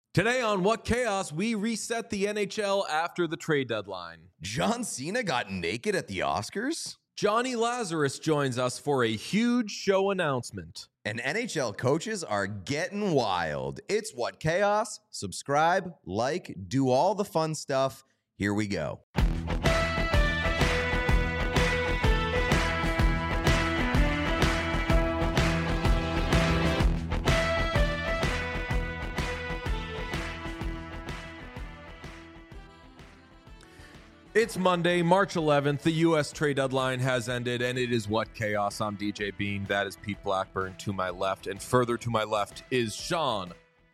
Today on What Chaos, we reset the NHL after the trade deadline. John Cena got naked at the Oscars? Johnny Lazarus joins us for a huge show announcement. And NHL coaches are getting wild. It's What Chaos. Subscribe, like, do all the fun stuff. Here we go. It's Monday, March 11th. The U.S. trade deadline has ended, and it is What Chaos. I'm DJ Bean. That is Pete Blackburn to my left, and further to my left is Sean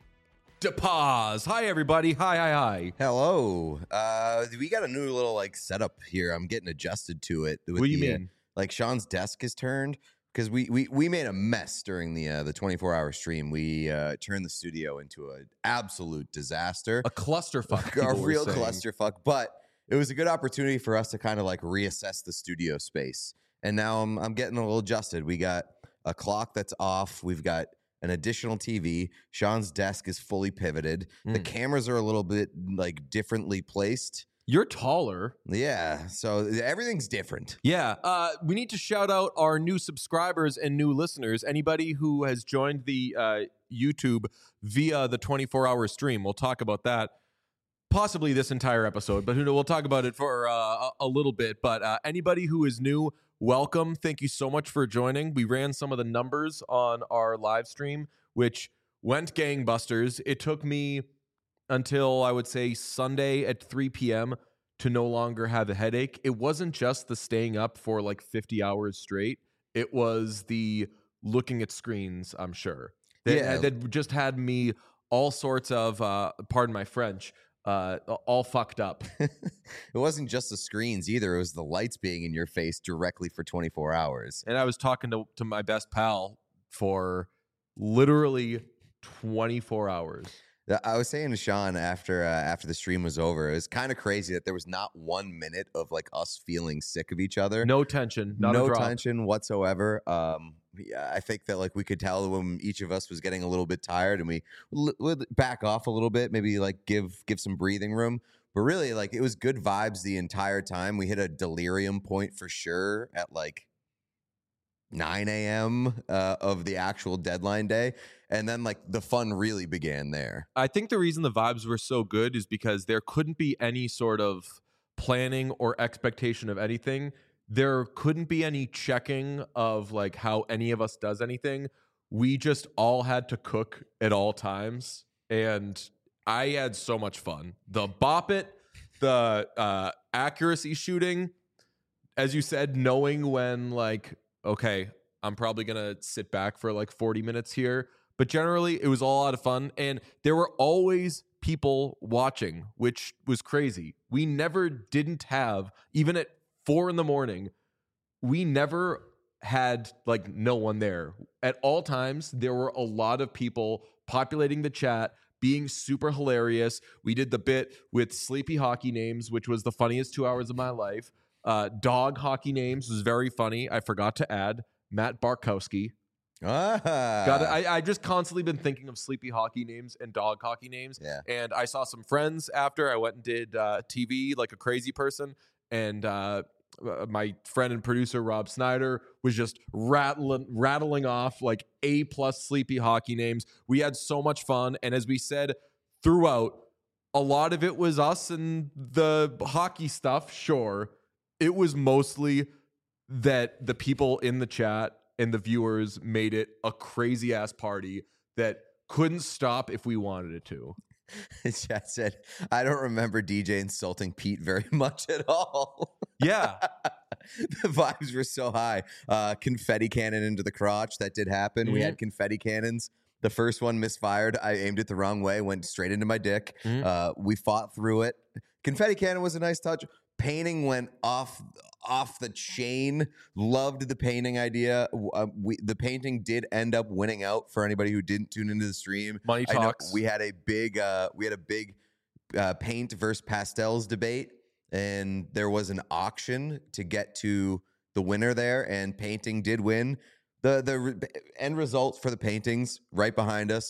DePaz. Hi, everybody. Hi. Hello. We got a new little setup here. I'm getting adjusted to it. What do you mean? Sean's desk is turned because we made a mess during the 24-hour stream. We turned the studio into an absolute disaster, A clusterfuck. a real clusterfuck, but it was a good opportunity for us to kind of reassess the studio space. And now I'm getting a little adjusted. We got a clock that's off. We've got an additional TV. Sean's desk is fully pivoted. The cameras are a little bit differently placed. You're taller. Yeah. So everything's different. Yeah. We need to shout out our new subscribers and new listeners. Anybody who has joined the YouTube via the 24-hour stream. We'll talk about that. Possibly this entire episode, but we'll talk about it for a little bit. But anybody who is new, welcome. Thank you so much for joining. We ran some of the numbers on our live stream, which went gangbusters. It took me until, I would say, Sunday at 3 p.m. to no longer have a headache. It wasn't just the staying up for 50 hours straight. It was the looking at screens, I'm sure. That just had me all sorts of, pardon my French, all fucked up. It wasn't just the screens either. It was the lights being in your face directly for 24 hours. And I was talking to my best pal for literally 24 hours. I was saying to Sean after the stream was over, it was kind of crazy that there was not 1 minute of us feeling sick of each other. No tension. No tension whatsoever. Yeah, I think that we could tell when each of us was getting a little bit tired, and we would back off a little bit, maybe give some breathing room. But really, it was good vibes the entire time. We hit a delirium point for sure at 9 a.m. Of the actual deadline day. And then the fun really began there. I think the reason the vibes were so good is because there couldn't be any sort of planning or expectation of anything. There couldn't be any checking of how any of us does anything. We just all had to cook at all times. And I had so much fun. The bop it, the accuracy shooting, as you said, knowing when okay, I'm probably going to sit back for 40 minutes here. But generally, it was all a lot of fun. And there were always people watching, which was crazy. We never didn't have, even at 4 a.m, we never had no one there. At all times, there were a lot of people populating the chat, being super hilarious. We did the bit with sleepy hockey names, which was the funniest 2 hours of my life. Dog hockey names was very funny. I forgot to add Matt Barkowski. I just constantly been thinking of sleepy hockey names and dog hockey names. Yeah. And I saw some friends after I went and did TV like a crazy person. And my friend and producer Rob Snyder was just rattling off A+ sleepy hockey names. We had so much fun. And as we said throughout, a lot of it was us and the hockey stuff. Sure. It was mostly that the people in the chat and the viewers made it a crazy ass party that couldn't stop if we wanted it to. Chat said, I don't remember DJ insulting Pete very much at all. Yeah. The vibes were so high. Confetti cannon into the crotch. That did happen. Mm-hmm. We had confetti cannons. The first one misfired. I aimed it the wrong way, went straight into my dick. Mm-hmm. We fought through it. Confetti cannon was a nice touch. Painting went off the chain. Loved the painting idea. The painting did end up winning out for anybody who didn't tune into the stream. Money talks. We had a big paint versus pastels debate, and there was an auction to get to the winner there, and painting did win. The end results for the paintings right behind us.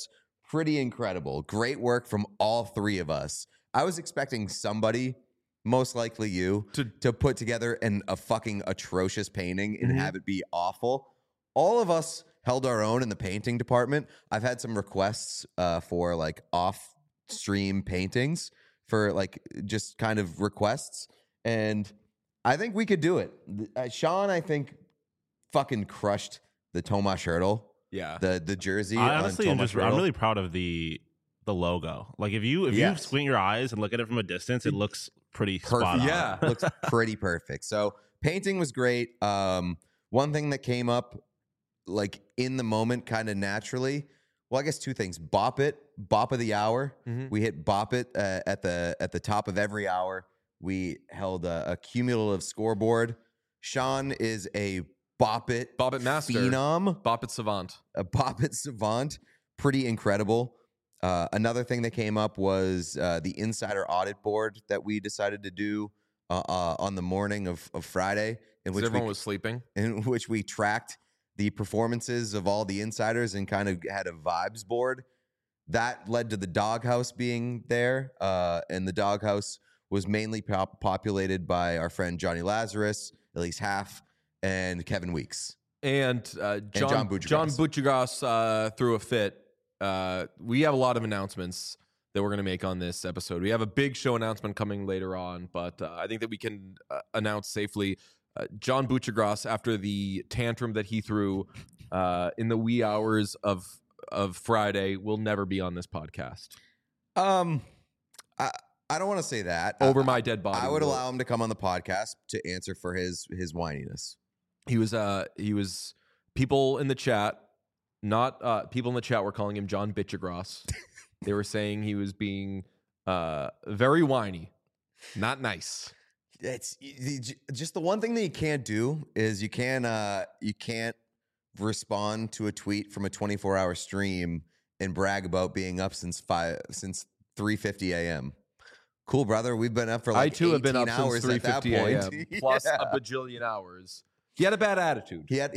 pretty incredible. Great work from all three of us. I was expecting somebody, most likely you, to put together a fucking atrocious painting and have it be awful. All of us held our own in the painting department. I've had some requests for like off-stream paintings for like just kind of requests, and I think we could do it. Sean, I think, fucking crushed the Tomas Hertl. Yeah, the jersey. I honestly I'm really proud of the logo. Like if you squint your eyes and look at it from a distance, it looks pretty spot on. Yeah, looks pretty perfect. So painting was great. One thing that came up like in the moment, kind of naturally. Well, I guess two things: bop of the hour. We hit bop it at the top of every hour. We held a cumulative scoreboard. Sean is a Bop It master, phenom, Bop It savant, a Bop It savant. Pretty incredible. Another thing that came up was the insider audit board that we decided to do on the morning of Friday, in which everyone was sleeping, in which we tracked the performances of all the insiders and kind of had a vibes board. That led to the doghouse being there, and the doghouse was mainly populated by our friend Johnny Lazarus, at least half, and Kevin Weeks. And John Buccigross threw a fit. We have a lot of announcements that we're going to make on this episode. We have a big show announcement coming later on, but I think that we can announce safely John Buccigross, after the tantrum that he threw in the wee hours of Friday, will never be on this podcast. I don't want to say that. Over my dead body. I would allow him to come on the podcast to answer for his whininess. He was people in the chat, not people in the chat were calling him John Buccigross. They were saying he was being very whiny, not nice. It's just the one thing that you can't do is you can't respond to a tweet from a 24-hour stream and brag about being up since 3:50 a.m. Cool, brother. We've been up for like 18 have been up hours since 3:50 a.m. plus Yeah. a bajillion hours. He had a bad attitude. He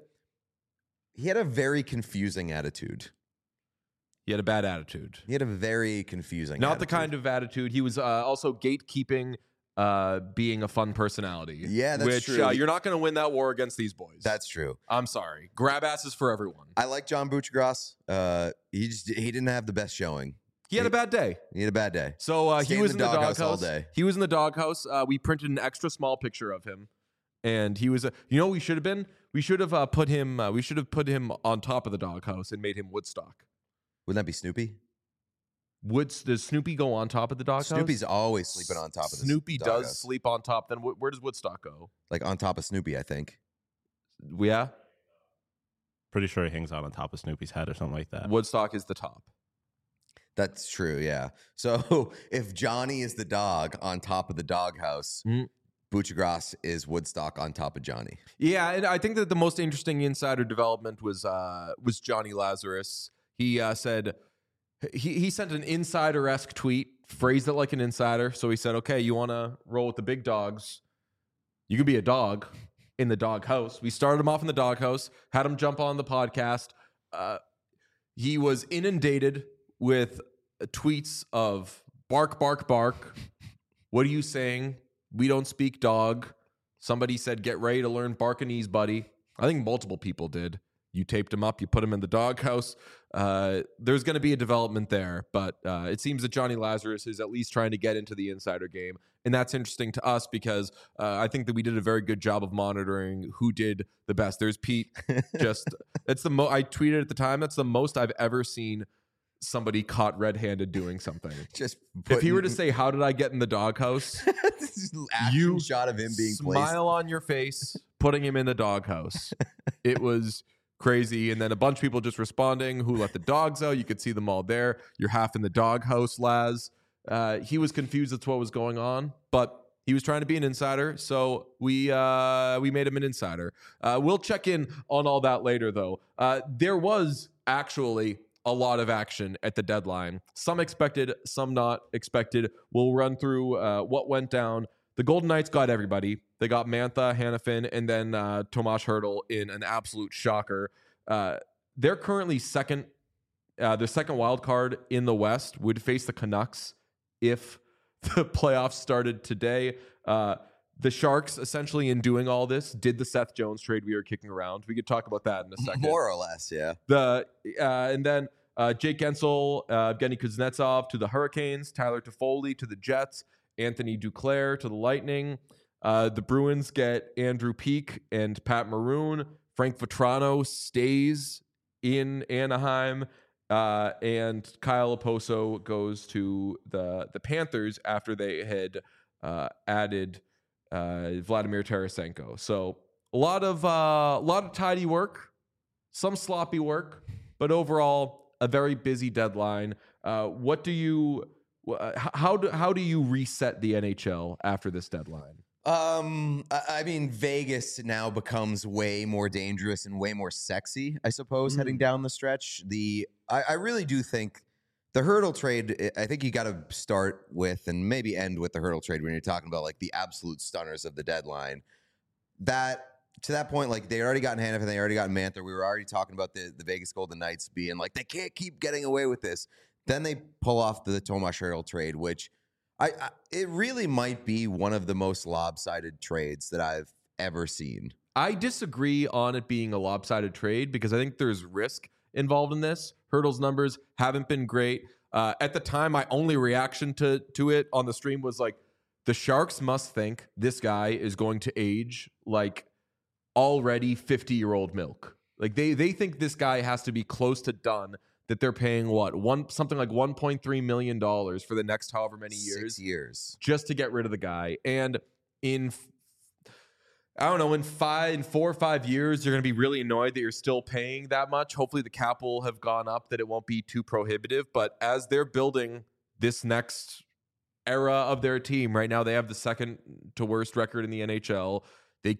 had a very confusing attitude. He had a bad attitude. He had a very confusing Not attitude. the kind of attitude. He was also gatekeeping being a fun personality. Yeah, that's which, true. You're not going to win that war against these boys. That's true. I'm sorry. Grab asses for everyone. I like John Buccigross. He didn't have the best showing. He had a bad day. He had a bad day. So he was in the doghouse all day. He was in the doghouse. We printed an extra small picture of him, and he was. We should have been. We should have put him. We should have put him on top of the doghouse and made him Woodstock. Wouldn't that be Snoopy? Does Snoopy go on top of the doghouse? Snoopy's always sleeping on top of the Snoopy doghouse. does sleep on top. Then where does Woodstock go? Like on top of Snoopy, I think. Yeah. Pretty sure he hangs out on top of Snoopy's head or something like that. Woodstock is the top. That's true, yeah. So if Johnny is the dog on top of the doghouse, Buccigross is Woodstock on top of Johnny. Yeah, and I think that the most interesting insider development was Johnny Lazarus. He said he sent an insider-esque tweet, phrased it like an insider. So he said, "Okay, you want to roll with the big dogs? You can be a dog in the doghouse." We started him off in the doghouse, had him jump on the podcast. He was inundated with tweets of bark, bark, bark. What are you saying? We don't speak dog. Somebody said, get ready to learn Barkanese, buddy. I think multiple people did. You taped him up. You put him in the doghouse. There's going to be a development there, but it seems that Johnny Lazarus is at least trying to get into the insider game. And that's interesting to us because I think that we did a very good job of monitoring who did the best. There's Pete. I tweeted at the time, that's the most I've ever seen somebody caught red-handed doing something. If he were to say, how did I get in the doghouse? You shot of him being smile on your face, putting him in the doghouse. It was crazy. And then a bunch of people just responding, who let the dogs out? You could see them all there. You're half in the doghouse, Laz. He was confused as to what was going on, but he was trying to be an insider, so we made him an insider. We'll check in on all that later, though. There was actually a lot of action at the deadline. Some expected, some not expected. We'll run through what went down. The Golden Knights got everybody. They got Mantha, Hanifin, and then Tomas Hertl in an absolute shocker. They're currently second the second wild card in the West would face the Canucks if the playoffs started today. The Sharks, essentially, in doing all this, did the Seth Jones trade we were kicking around. We could talk about that in a second. More or less, yeah. And then Jake Gensel, Evgeny Kuznetsov to the Hurricanes, Tyler Toffoli to the Jets, Anthony Duclair to the Lightning. The Bruins get Andrew Peeke and Pat Maroon. Frank Vetrano stays in Anaheim. And Kyle Oposo goes to the Panthers after they had added Vladimir Tarasenko. So a lot of tidy work, some sloppy work, but overall a very busy deadline. How do you reset the NHL after this deadline? I mean, Vegas now becomes way more dangerous and way more sexy, I suppose, heading down the stretch. I really do think the Hurdle trade, I think you got to start with and maybe end with the Hurdle trade when you're talking about like the absolute stunners of the deadline. That to that point, like they already got Hanifin, they already got Manther. We were already talking about the Vegas Golden Knights being like, they can't keep getting away with this. Then they pull off the Tomas Hertl trade, which it really might be one of the most lopsided trades that I've ever seen. I disagree on it being a lopsided trade because I think there's risk involved in this. Hertl's numbers haven't been great. At the time, my only reaction to it on the stream was like, the Sharks must think this guy is going to age like already 50-year-old milk. Like they think this guy has to be close to done, that they're paying something like $1.3 million for the next however many years. 6 years. Just to get rid of the guy. And in 4 or 5 years, you're going to be really annoyed that you're still paying that much. Hopefully the cap will have gone up, that it won't be too prohibitive. But as they're building this next era of their team, right now they have the second to worst record in the NHL. They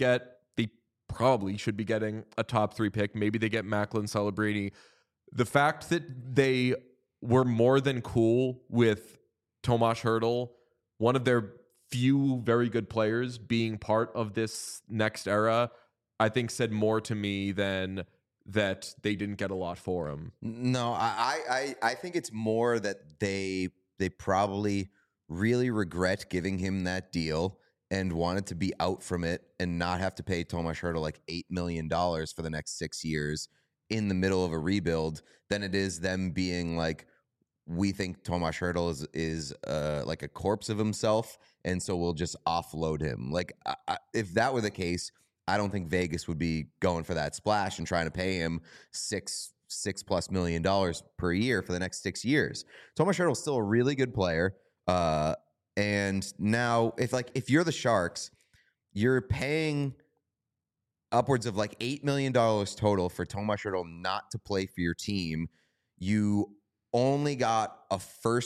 probably should be getting a top 3 pick. Maybe they get Macklin Celebrini. The fact that they were more than cool with Tomas Hertl, one of their few very good players, being part of this next era, I think said more to me than that they didn't get a lot for him. No, I think it's more that they probably really regret giving him that deal and wanted to be out from it and not have to pay Tomas Hertl like $8 million for the next 6 years in the middle of a rebuild than it is them being like, we think Tomas Hertl is like a corpse of himself, and so we'll just offload him. Like, if that were the case, I don't think Vegas would be going for that splash and trying to pay him $6+ million per year for the next 6 years. Tomas Hertl is still a really good player, and now if you're the Sharks, you're paying upwards of like $8 million total for Tomas Hertl not to play for your team. You only got a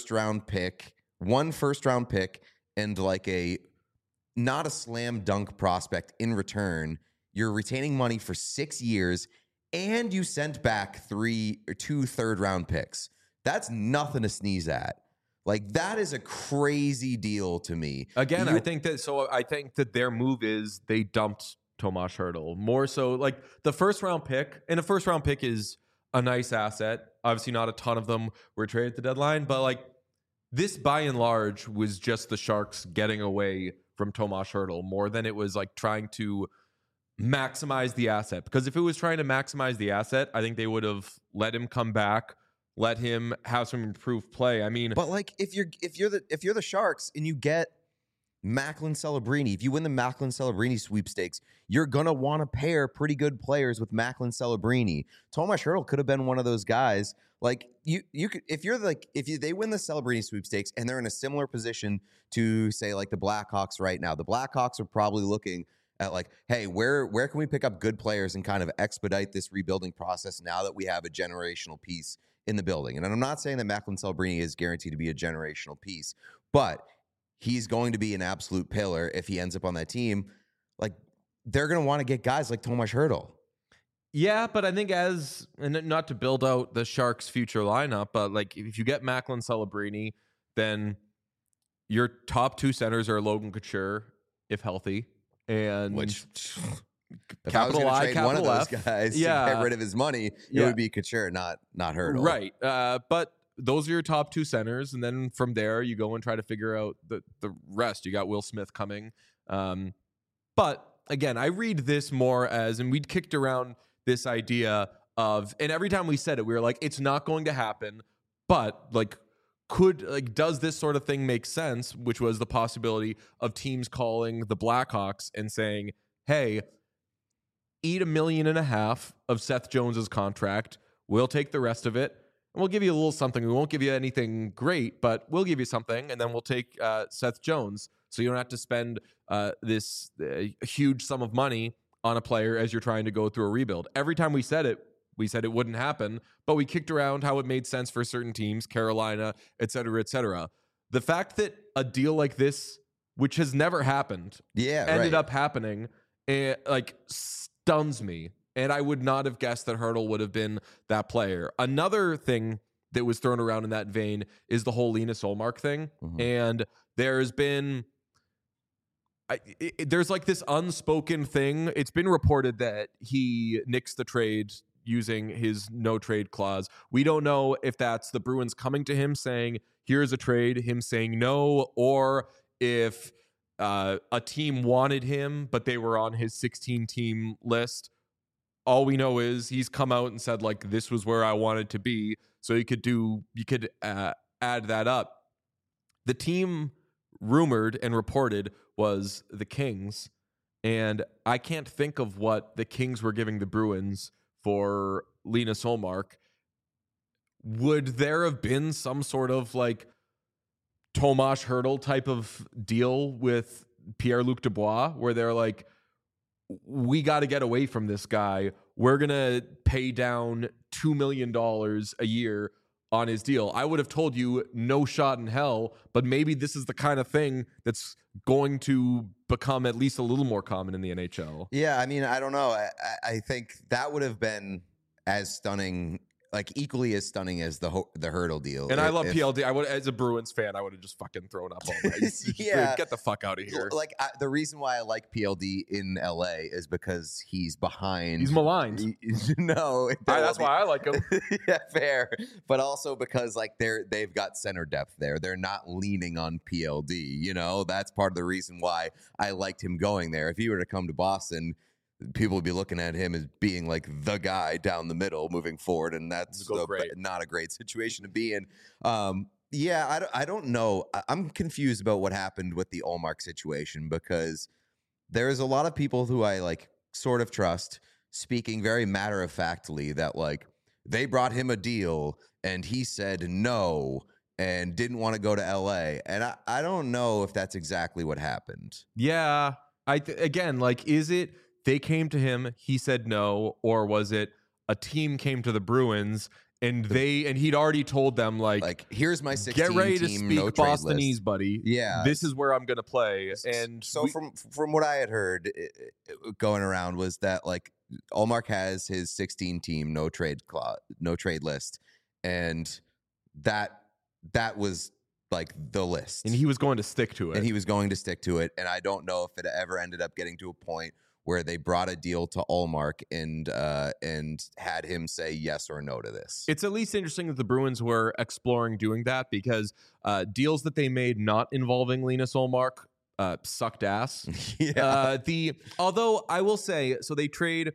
one first round pick, and like not a slam dunk prospect in return. You're retaining money for 6 years, and you sent back 2 third round picks. That's nothing to sneeze at. Like, that is a crazy deal to me. Again, I think that their move is they dumped Tomas Hertl. More so, like, the first round pick, and a first round pick is a nice asset. Obviously, not a ton of them were traded at the deadline, but like, this by and large was just the Sharks getting away from Tomas Hertl more than it was like trying to maximize the asset. Because if it was trying to maximize the asset, I think they would have let him come back, let him have some improved play. I mean, but like, if you're the Sharks and you get Macklin Celebrini, if you win the Macklin Celebrini sweepstakes, you're gonna want to pair pretty good players with Macklin Celebrini. Tomas Hertl could have been one of those guys. Like, you could, if they win the Celebrini sweepstakes and they're in a similar position to, say, like the Blackhawks right now, the Blackhawks are probably looking at like, hey, where can we pick up good players and kind of expedite this rebuilding process now that we have a generational piece in the building? And I'm not saying that Macklin Celebrini is guaranteed to be a generational piece, but he's going to be an absolute pillar if he ends up on that team. Like, they're going to want to get guys like Tomas Hertl. Yeah, but I think and not to build out the Sharks' future lineup, but like, if you get Macklin Celebrini, then your top 2 centers are Logan Couture, if healthy, and If I was capital going to I, trade capital one of those F. guys to get rid of his money, it would be Couture, not Hurdle. Right. But those are your top two centers, and then from there you go and try to figure out the rest. You got Will Smith coming. But again, I read this more as, and we'd kicked around this idea of, and every time we said it, we were like, it's not going to happen, but like, does this sort of thing make sense? Which was the possibility of teams calling the Blackhawks and saying, hey, eat $1.5 million of Seth Jones's contract. We'll take the rest of it. And we'll give you a little something. We won't give you anything great, but we'll give you something. And then we'll take Seth Jones. So you don't have to spend this huge sum of money on a player as you're trying to go through a rebuild. Every time we said it wouldn't happen, but we kicked around how it made sense for certain teams, Carolina, et cetera, et cetera. The fact that a deal like this, which has never happened, ended up happening, stuns me. And I would not have guessed that Hurdle would have been that player. Another thing that was thrown around in that vein is the whole Linus Ullmark thing. Mm-hmm. And there's been... there's like this unspoken thing. It's been reported that he nixed the trade using his no trade clause. We don't know if that's the Bruins coming to him saying, here's a trade, him saying no, or if a team wanted him, but they were on his 16-team list. All we know is he's come out and said, like, this was where I wanted to be. So you could add that up. The team rumored and reported was the Kings. And I can't think of what the Kings were giving the Bruins for Linus Ullmark. Would there have been some sort of like Tomas Hurdle type of deal with Pierre-Luc Dubois where they're like, we got to get away from this guy. We're going to pay down $2 million a year on his deal. I would have told you no shot in hell, but maybe this is the kind of thing that's going to become at least a little more common in the NHL. Yeah, I mean, I don't know. I think that would have been as stunning, like equally as stunning as the Hurdle deal. And I love PLD. I would, as a Bruins fan, I would have just fucking thrown up all night. Yeah, get the fuck out of here. Like the reason why I like PLD in LA is because he's behind. He's maligned. That's why I like him. Yeah, fair. But also because like they've got center depth there. They're not leaning on PLD. You know, that's part of the reason why I liked him going there. If he were to come to Boston, people would be looking at him as being like the guy down the middle moving forward, and that's not a great situation to be in. I don't know. I'm confused about what happened with the Ullmark situation because there's a lot of people who I like sort of trust speaking very matter-of-factly that like they brought him a deal and he said no and didn't want to go to LA. And I don't know if that's exactly what happened. Yeah. Again, like, is it they came to him, he said no, or was it a team came to the Bruins and he'd already told them like here's my 16 get ready to team, speak no Bostonese, buddy. Yeah, this is where I'm gonna play. And so from what I had heard going around was that like Ullmark has his 16 team no trade list, and that was like the list, and he was going to stick to it. And I don't know if it ever ended up getting to a point where they brought a deal to Ullmark and had him say yes or no to this. It's at least interesting that the Bruins were exploring doing that because deals that they made not involving Linus Ullmark sucked ass. Yeah. Although I will say, so they trade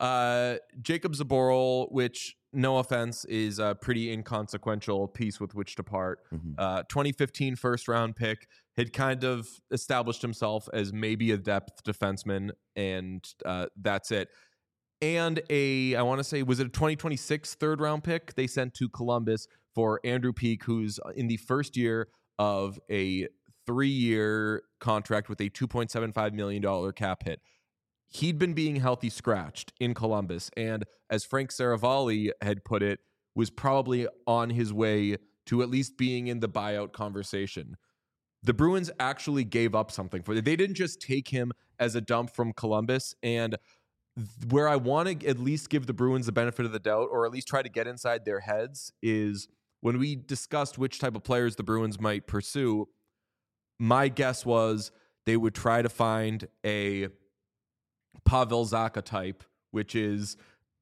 Jacob Zaboral, which, no offense, is a pretty inconsequential piece with which to part. Mm-hmm. 2015 first round pick, had kind of established himself as maybe a depth defenseman, and that's it. And I want to say, was it a 2026 third round pick they sent to Columbus for Andrew Peeke, who's in the first year of a 3-year contract with a $2.75 million cap hit. He'd been being healthy scratched in Columbus, and as Frank Saravalli had put it, was probably on his way to at least being in the buyout conversation. The Bruins actually gave up something for it. They didn't just take him as a dump from Columbus, and where I want to at least give the Bruins the benefit of the doubt, or at least try to get inside their heads, is when we discussed which type of players the Bruins might pursue, my guess was they would try to find a Pavel Zacha type, which is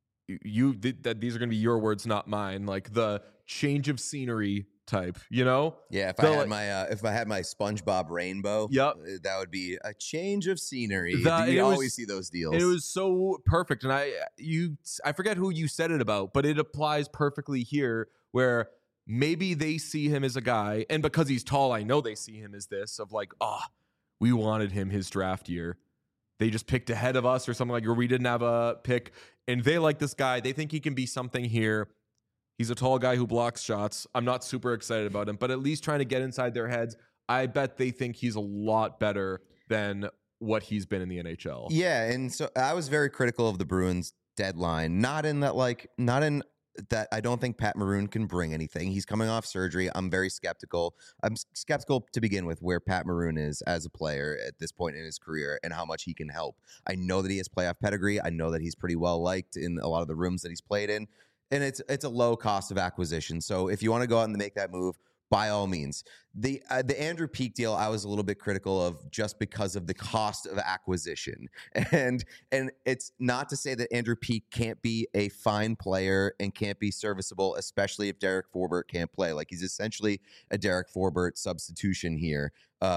these are going to be your words, not mine. Like the change of scenery type, you know? Yeah, if I had my SpongeBob rainbow, yep, that would be a change of scenery. We always see those deals. It was so perfect, and I forget who you said it about, but it applies perfectly here, where maybe they see him as a guy, and because he's tall, I know they see him as this of like, we wanted him his draft year. They just picked ahead of us or something like, or we didn't have a pick, and they like this guy. They think he can be something here. He's a tall guy who blocks shots. I'm not super excited about him, but at least trying to get inside their heads. I bet they think he's a lot better than what he's been in the NHL. Yeah, and so I was very critical of the Bruins deadline. Not in that I don't think Pat Maroon can bring anything. He's coming off surgery. I'm very skeptical. I'm skeptical to begin with where Pat Maroon is as a player at this point in his career and how much he can help. I know that he has playoff pedigree. I know that he's pretty well liked in a lot of the rooms that he's played in. And it's a low cost of acquisition. So if you want to go out and make that move, by all means. The Andrew Peeke deal, I was a little bit critical of just because of the cost of acquisition. And it's not to say that Andrew Peeke can't be a fine player and can't be serviceable, especially if Derek Forbort can't play. Like, he's essentially a Derek Forbort substitution here.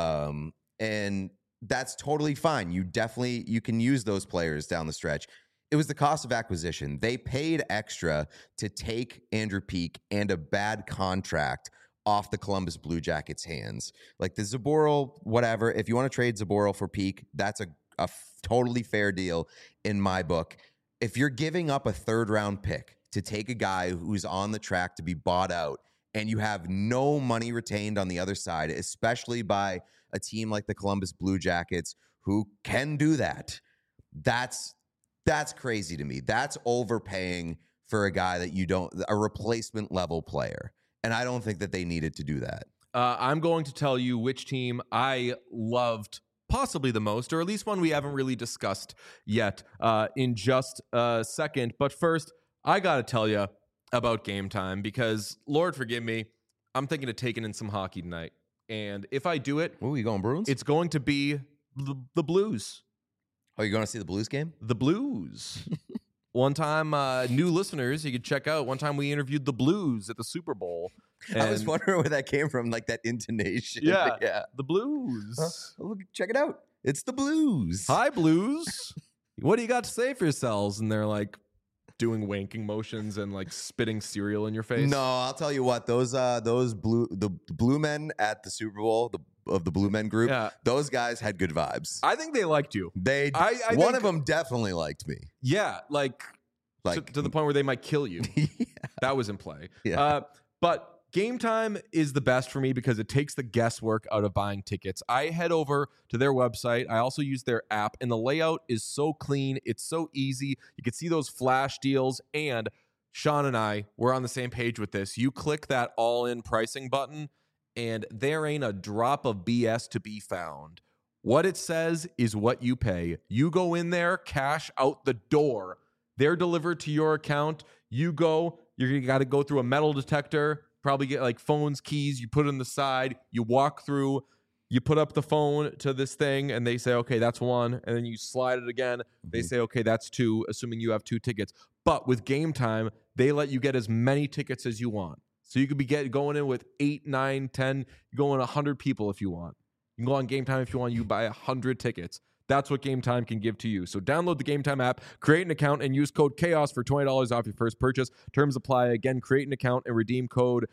And that's totally fine. You can use those players down the stretch. It was the cost of acquisition. They paid extra to take Andrew Peeke and a bad contract off the Columbus Blue Jackets' hands. Like the Zaboral, whatever. If you want to trade Zaboral for Peeke, that's a totally fair deal in my book. If you're giving up a third-round pick to take a guy who's on the track to be bought out and you have no money retained on the other side, especially by a team like the Columbus Blue Jackets who can do that, that's crazy to me. That's overpaying for a guy that a replacement level player. And I don't think that they needed to do that. I'm going to tell you which team I loved possibly the most, or at least one we haven't really discussed yet in just a second. But first, I got to tell you about Game Time because, Lord forgive me, I'm thinking of taking in some hockey tonight. And if I do it... Ooh, you going Bruins? It's going to be the Blues. Oh, you're going to see the Blues game? The Blues. One time, new listeners, you could check out. One time we interviewed the Blues at the Super Bowl. I was wondering where that came from, like that intonation. Yeah, the Blues. Check it out. It's the Blues. Hi, Blues. What do you got to say for yourselves? And they're like doing wanking motions and like spitting cereal in your face. No, I'll tell you what. The Blue Men at the Super Bowl, of the Blue Men group, those guys had good vibes. I think they liked you. One of them definitely liked me. Yeah, like to the point where they might kill you. Yeah. That was in play. Yeah. But Game Time is the best for me because it takes the guesswork out of buying tickets. I head over to their website. I also use their app, and the layout is so clean. It's so easy. You can see those flash deals, and Sean and I, we're on the same page with this. You click that all-in pricing button, and there ain't a drop of BS to be found. What it says is what you pay. You go in there, cash out the door. They're delivered to your account. You go, you got to go through a metal detector, probably get like phones, keys, you put it on the side, you walk through, you put up the phone to this thing, and they say, okay, that's one. And then you slide it again. They say, okay, that's two, assuming you have 2 tickets. But with Game Time, they let you get as many tickets as you want. So you could be going in with 8, 9, 10, you go in 100 people if you want. You can go on Game Time if you want, you buy 100 tickets. That's what Game Time can give to you. So download the Game Time app, create an account, and use code CHAOS for $20 off your first purchase. Terms apply. Again, create an account and redeem code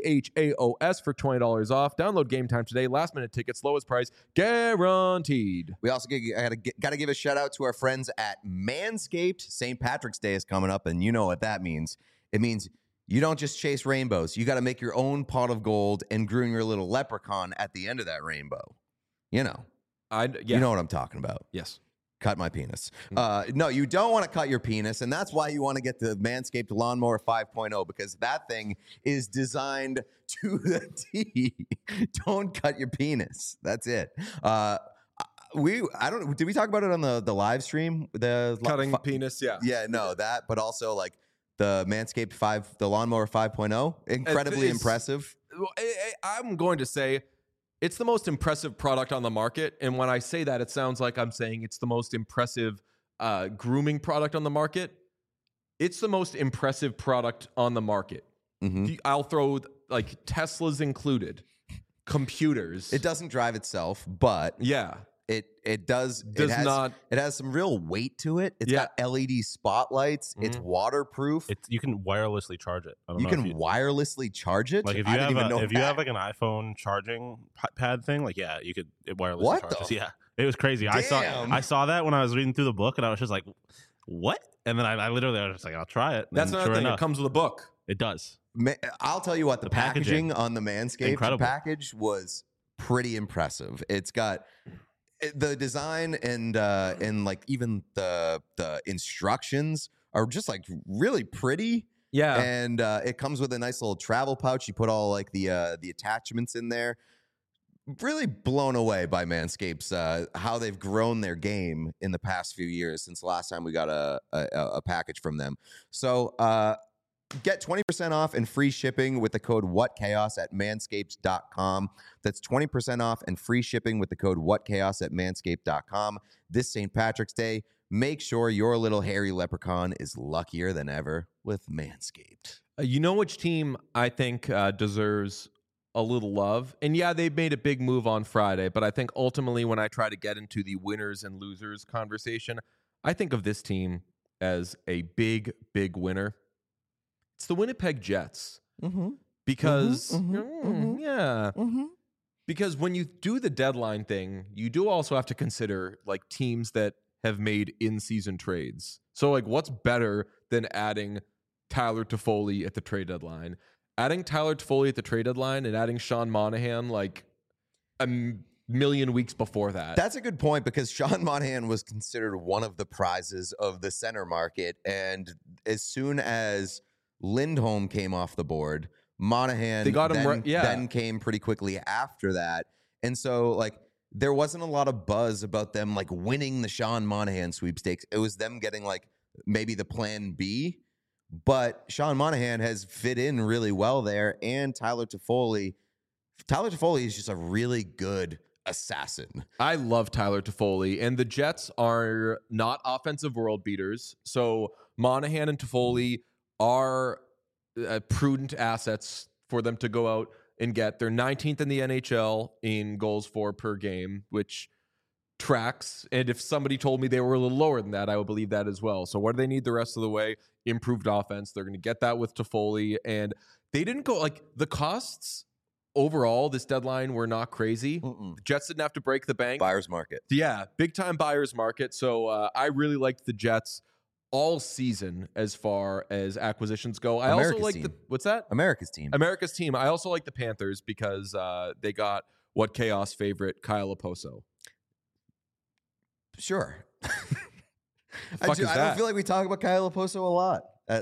CHAOS for $20 off. Download Game Time today. Last minute tickets, lowest price guaranteed. We also got to give a shout out to our friends at Manscaped. St. Patrick's Day is coming up, and you know what that means. It means you don't just chase rainbows. You got to make your own pot of gold and groom your little leprechaun at the end of that rainbow. You know. You know what I'm talking about. Yes. Cut my penis. No, you don't want to cut your penis, and that's why you want to get the Manscaped Lawnmower 5.0, because that thing is designed to the T. Don't cut your penis. That's it. Did we talk about it on the live stream? The cutting penis, yeah. Yeah, no, that, but also like the Manscaped the Lawnmower 5.0, incredibly impressive. I'm going to say it's the most impressive product on the market. And when I say that, it sounds like I'm saying it's the most impressive grooming product on the market, it's the most impressive product on the market. I'll throw like Teslas included, computers. It doesn't drive itself, but it does not. It has some real weight to it. It's got LED spotlights. It's waterproof. You can wirelessly charge it. You can wirelessly charge it. Like if you have like an iPhone charging pad thing, like you could wirelessly charge it. Yeah, it was crazy. Damn. I saw that when I was reading through the book, and I was just like, what? And then I literally was just like, I'll try it. That's another thing. It comes with a book. It does. I'll tell you what, the packaging on the Manscaped package was pretty impressive. It's got the design and like even the instructions are just like really pretty. Yeah. And it comes with a nice little travel pouch. You put all like the attachments in there. Really blown away by Manscaped's how they've grown their game in the past few years since the last time we got a package from them. So get 20% off and free shipping with the code WhatChaos at manscaped.com. That's 20% off and free shipping with the code WhatChaos at manscaped.com. This St. Patrick's Day, make sure your little hairy leprechaun is luckier than ever with Manscaped. You know which team I think deserves a little love? And yeah, they made a big move on Friday, but I think ultimately when I try to get into the winners and losers conversation, I think of this team as a big, big winner. It's the Winnipeg Jets. Because, because when you do the deadline thing, you do also have to consider like teams that have made in-season trades. So like what's better than adding Tyler Toffoli at the trade deadline? Adding Tyler Toffoli at the trade deadline and adding Sean Monahan like a million weeks before that. That's a good point because Sean Monahan was considered one of the prizes of the center market. And as soon as Lindholm came off the board, Monahan they got him then came pretty quickly after that. And so like there wasn't a lot of buzz about them like winning the Sean Monahan sweepstakes. It was them getting like maybe the plan B. But Sean Monahan has fit in really well there, and Tyler Toffoli is just a really good assassin. I love Tyler Toffoli, and the Jets are not offensive world beaters. So Monahan and Toffoli are prudent assets for them to go out and get. They're 19th in the NHL in goals for per game, which tracks. And if somebody told me they were a little lower than that, I would believe that as well. So what do they need the rest of the way? Improved offense. They're going to get that with Toffoli. And they didn't go like the costs overall this deadline were not crazy. The Jets didn't have to break the bank. Buyer's market. Yeah, big time buyer's market. So I really liked the Jets all season as far as acquisitions go. I also like what's that? America's team. America's team. I also like the Panthers because they got what Chaos favorite Kyle Oposo. Sure. I don't feel like we talk about Kyle Oposo a lot.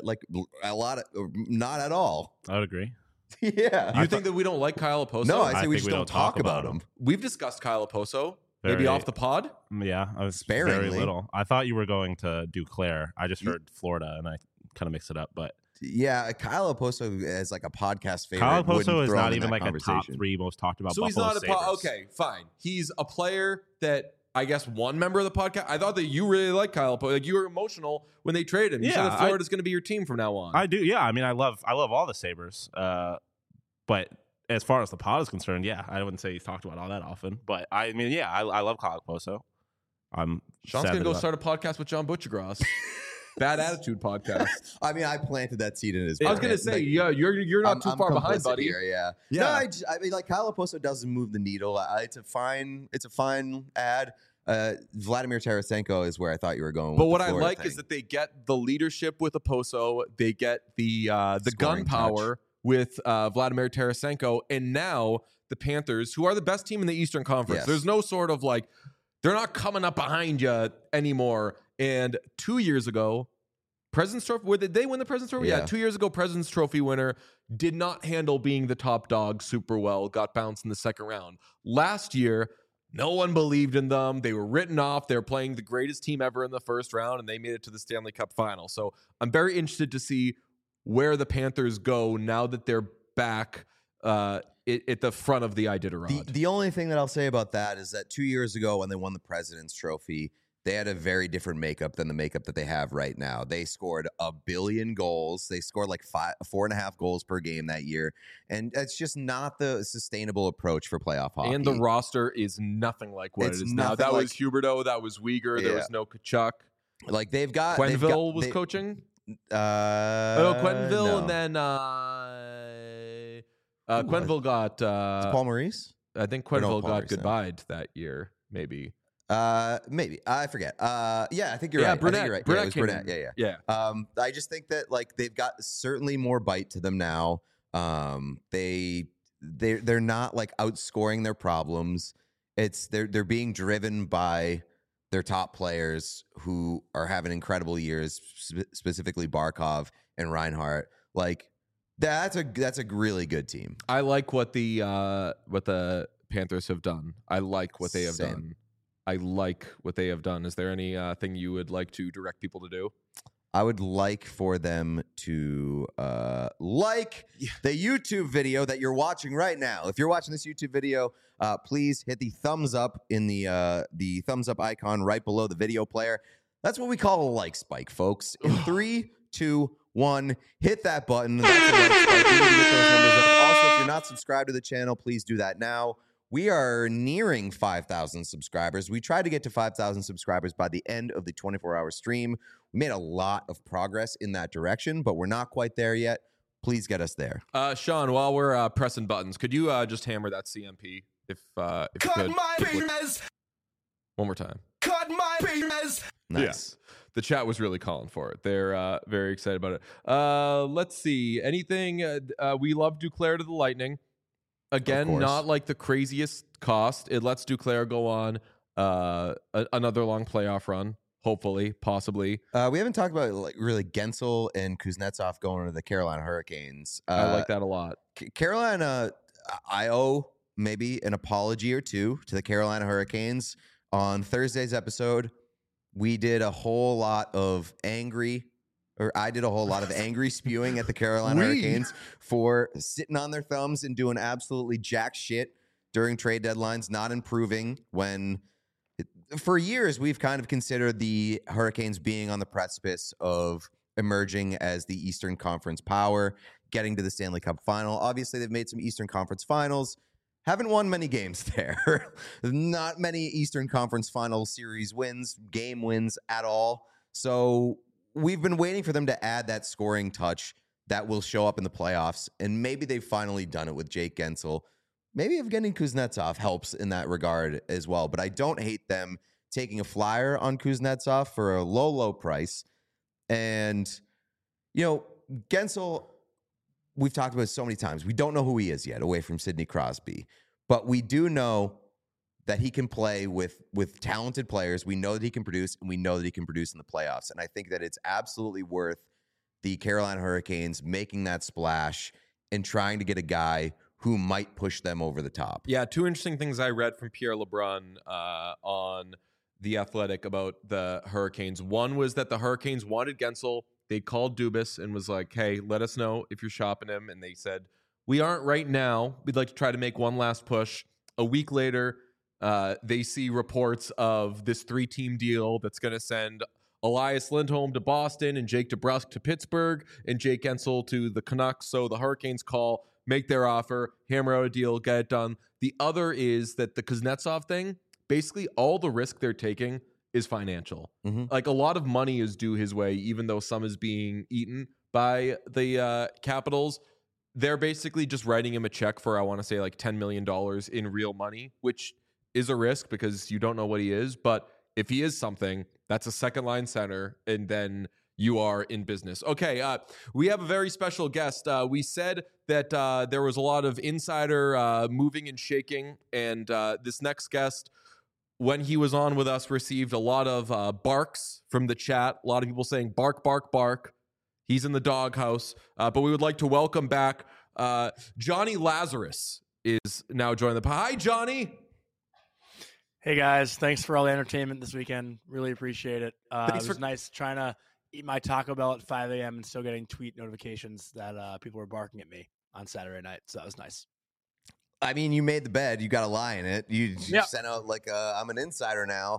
Not at all. I would agree. Yeah. You think that we don't like Kyle Oposo? No, I say we just don't talk about him. We've discussed Kyle Oposo. Maybe off the pod? Yeah, I was sparingly. Very little. I thought you were going to do Claire. I just heard Florida, and I kind of mixed it up. But yeah, Kyle Oposo is like a podcast favorite. Kyle Oposo is not even like a top 3 most talked about. So Buffalo he's not okay, fine. He's a player that I guess one member of the podcast. I thought that you really liked Kyle Oposo. Like you were emotional when they traded him. You said that Florida's going to be your team from now on. I do. Yeah, I mean, I love all the Sabres. But as far as the pod is concerned, yeah, I wouldn't say he's talked about all that often. But I mean, yeah, I love Kyle Oposo. Sean's gonna go start a podcast with John Butchergross. Bad Attitude podcast. I mean, I planted that seed in his. I was gonna say, yeah, you're not too far behind, buddy. Here, yeah. No, I mean, like Kyle Oposo doesn't move the needle. It's a fine ad. Vladimir Tarasenko is where I thought you were going. But what I like is that they get the leadership with Oposo. They get the gun power with Vladimir Tarasenko, and now the Panthers, who are the best team in the Eastern Conference. Yes. There's no sort of like they're not coming up behind you anymore. And 2 years ago, President's Trophy, did they win the President's Trophy? Yeah, 2 years ago, President's Trophy winner did not handle being the top dog super well, got bounced in the second round. Last year, no one believed in them. They were written off. They were playing the greatest team ever in the first round, and they made it to the Stanley Cup final. So I'm very interested to see where the Panthers go now that they're back at the front of the Iditarod. The only thing that I'll say about that is that 2 years ago when they won the President's Trophy, they had a very different makeup than the makeup that they have right now. They scored 1 billion goals. They scored like 4.5 goals per game that year. And it's just not the sustainable approach for playoff hockey. And the roster is nothing like what it is now. That was Huberdeau. That was Uyghur. There was no Kachuk. Like they've got Quenneville was coaching. Quenneville, no. and then Quenneville got Paul Maurice. I think Quenneville got Maurice, goodbye that year, maybe. Maybe I forget. Yeah, I think you're right. Brunette. I think you're right. Brunette it was Brunette. Yeah. I just think that like they've got certainly more bite to them now. They're not like outscoring their problems. They're being driven by their top players who are having incredible years, specifically Barkov and Reinhart. Like that's a really good team. I like what the Panthers have done. I like what they have done. I like what they have done. Is there any thing you would like to direct people to do? I would like for them to like the YouTube video that you're watching right now. If you're watching this YouTube video, please hit the thumbs up in the thumbs up icon right below the video player. That's what we call a like spike, folks. In 3, 2, 1, hit that button. That's a like spike. We need to get those numbers up. Also, if you're not subscribed to the channel, please do that now. We are nearing 5,000 subscribers. We tried to get to 5,000 subscribers by the end of the 24-hour stream. We made a lot of progress in that direction, but we're not quite there yet. Please get us there. Sean, while we're pressing buttons, could you just hammer that CMP if you could? My penis. One more time. Cut my penis. Nice. Yeah. The chat was really calling for it. They're very excited about it. Let's see. Anything? We love Duclair to the Lightning. Again, not like the craziest cost. It lets Duclair go on another long playoff run, hopefully, possibly. We haven't talked about like really Gensel and Kuznetsov going to the Carolina Hurricanes. I like that a lot. Carolina, I owe maybe an apology or two to the Carolina Hurricanes. On Thursday's episode, we did a whole lot of I did a whole lot of angry spewing at the Carolina Hurricanes for sitting on their thumbs and doing absolutely jack shit during trade deadlines, not improving when for years we've kind of considered the Hurricanes being on the precipice of emerging as the Eastern Conference power, getting to the Stanley Cup final. Obviously, they've made some Eastern Conference finals. Haven't won many games there. Not many Eastern Conference final series wins, game wins at all. So we've been waiting for them to add that scoring touch that will show up in the playoffs, and maybe they've finally done it with Jake Gensel. Maybe Evgeny Kuznetsov helps in that regard as well, but I don't hate them taking a flyer on Kuznetsov for a low, low price. And, Gensel, we've talked about it so many times. We don't know who he is yet, away from Sidney Crosby, but we do know that he can play with talented players. We know that he can produce, and we know that he can produce in the playoffs. And I think that it's absolutely worth the Carolina Hurricanes making that splash and trying to get a guy who might push them over the top. Yeah, two interesting things I read from Pierre LeBrun on The Athletic about the Hurricanes. One was that the Hurricanes wanted Gensel. They called Dubas and was like, hey, let us know if you're shopping him. And they said, we aren't right now. We'd like to try to make one last push. A week later, they see reports of this 3-team deal that's going to send Elias Lindholm to Boston and Jake DeBrusk to Pittsburgh and Jake Gensel to the Canucks. So the Hurricanes call, make their offer, hammer out a deal, get it done. The other is that the Kuznetsov thing, basically all the risk they're taking is financial. Mm-hmm. Like a lot of money is due his way, even though some is being eaten by the Capitals. They're basically just writing him a check for, I want to say, like $10 million in real money, which is a risk because you don't know what he is. But if he is something, that's a second line center, and then you are in business. Okay, we have a very special guest. We said that there was a lot of insider moving and shaking, and this next guest, when he was on with us, received a lot of barks from the chat. A lot of people saying, bark, bark, bark. He's in the doghouse. But we would like to welcome back Johnny Lazarus is now joining the... Hi, Johnny. Hey, guys. Thanks for all the entertainment this weekend. Really appreciate it. It was nice trying to eat my Taco Bell at 5 a.m. and still getting tweet notifications that people were barking at me on Saturday night. So that was nice. I mean, you made the bed. You got to lie in it. You sent out like, I'm an insider now.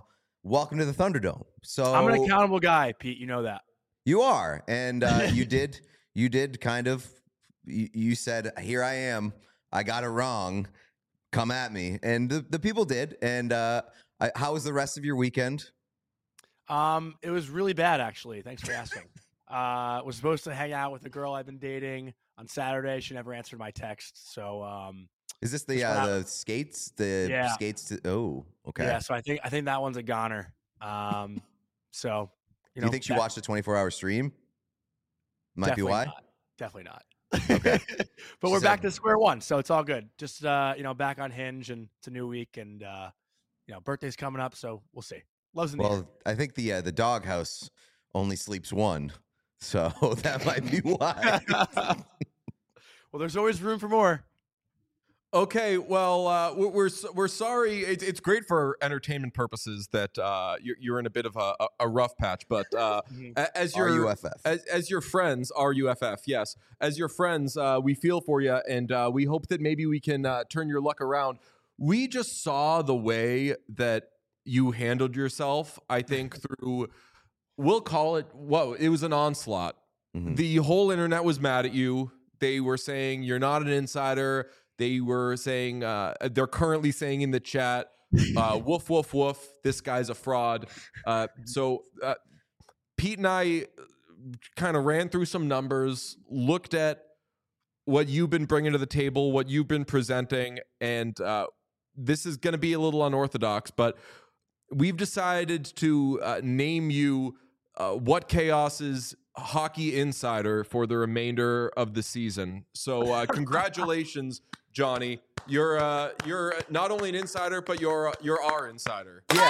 welcome to the Thunderdome. So I'm an accountable guy, Pete. You know that. You are, and you did kind of. You said, "Here I am. I got it wrong. Come at me," and the people did. And how was the rest of your weekend? It was really bad, actually. Thanks for asking. Was supposed to hang out with a girl I've been dating on Saturday. She never answered my text. So, is this the skates? The skates? Oh, okay. Yeah. So I think that one's a goner. So do you think she watched a 24-hour stream? Might be why. Definitely not. Okay. But we're back to square one, so it's all good. Just back on Hinge, and it's a new week, and birthday's coming up, so we'll see. Love's in the air. I think the doghouse only sleeps one, so that might be why. Well, there's always room for more. Okay, well, we're sorry. It's great for entertainment purposes that you're in a bit of a rough patch, but as your RUFF. as your friends, RUFF, yes, as your friends, we feel for you, and we hope that maybe we can turn your luck around. We just saw the way that you handled yourself. I think through, we'll call it, it was an onslaught. Mm-hmm. The whole internet was mad at you. They were saying you're not an insider. They were saying, they're currently saying in the chat, woof, woof, woof, this guy's a fraud. So Pete and I kind of ran through some numbers, looked at what you've been bringing to the table, what you've been presenting, and this is going to be a little unorthodox, but we've decided to name you What Chaos's hockey insider for the remainder of the season. So congratulations, Johnny. You're not only an insider, but you're our insider. Yes.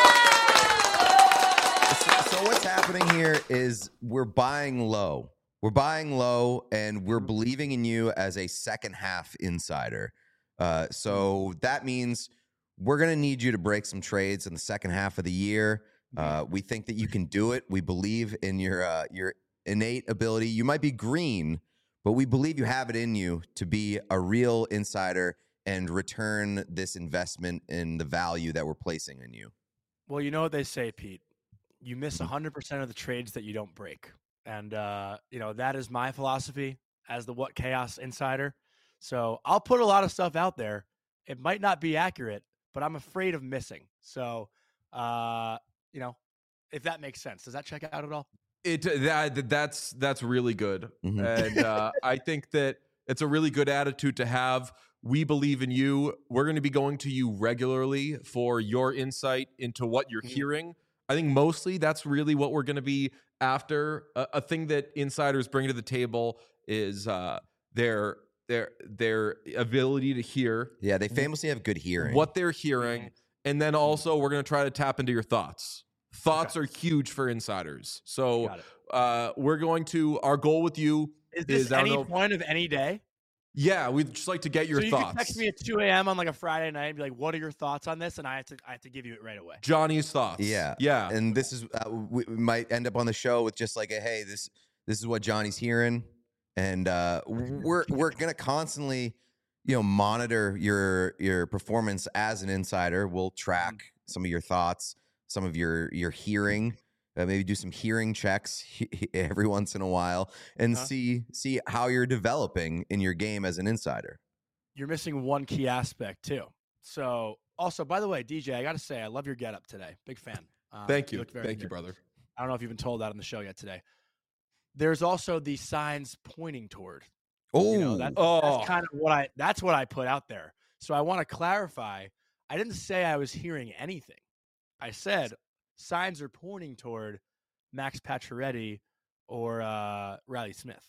So what's happening here is we're buying low. We're buying low, and we're believing in you as a second half insider. So that means we're going to need you to break some trades in the second half of the year. We think that you can do it. We believe in your innate ability. You might be green, but we believe you have it in you to be a real insider and return this investment in the value that we're placing in you. Well, you know what they say, Pete. You miss 100% of the trades that you don't break. And, that is my philosophy as the What Chaos insider. So I'll put a lot of stuff out there. It might not be accurate, but I'm afraid of missing. So, if that makes sense. Does that check out at all? That's really good. Mm-hmm. And I think that it's a really good attitude to have. We believe in you. We're going to be going to you regularly for your insight into what you're hearing. I think mostly that's really what we're going to be after. A thing that insiders bring to the table is their ability to hear. Yeah, they famously have good hearing. What they're hearing. And then also we're going to try to tap into your thoughts. Thoughts are huge for insiders. So we're going to, our goal with you is this any point of any day? Yeah, we'd just like to get your thoughts. Can text me at 2 a.m. on like a Friday night and be like, what are your thoughts on this? And I have to give you it right away. Johnny's thoughts. Yeah. And this is, we might end up on the show with just like hey, this is what Johnny's hearing. And we're going to constantly, monitor your performance as an insider. We'll track some of your thoughts, some of your hearing, maybe do some hearing checks every once in a while, and see how you're developing in your game as an insider. You're missing one key aspect too. So also, by the way, DJ, I got to say, I love your getup today. Big fan. Thank you. Thank you, brother. I don't know if you've been told that on the show yet today. There's also the signs pointing toward. That's kind of that's what I put out there. So I want to clarify. I didn't say I was hearing anything. I said signs are pointing toward Max Pacioretty or Riley Smith.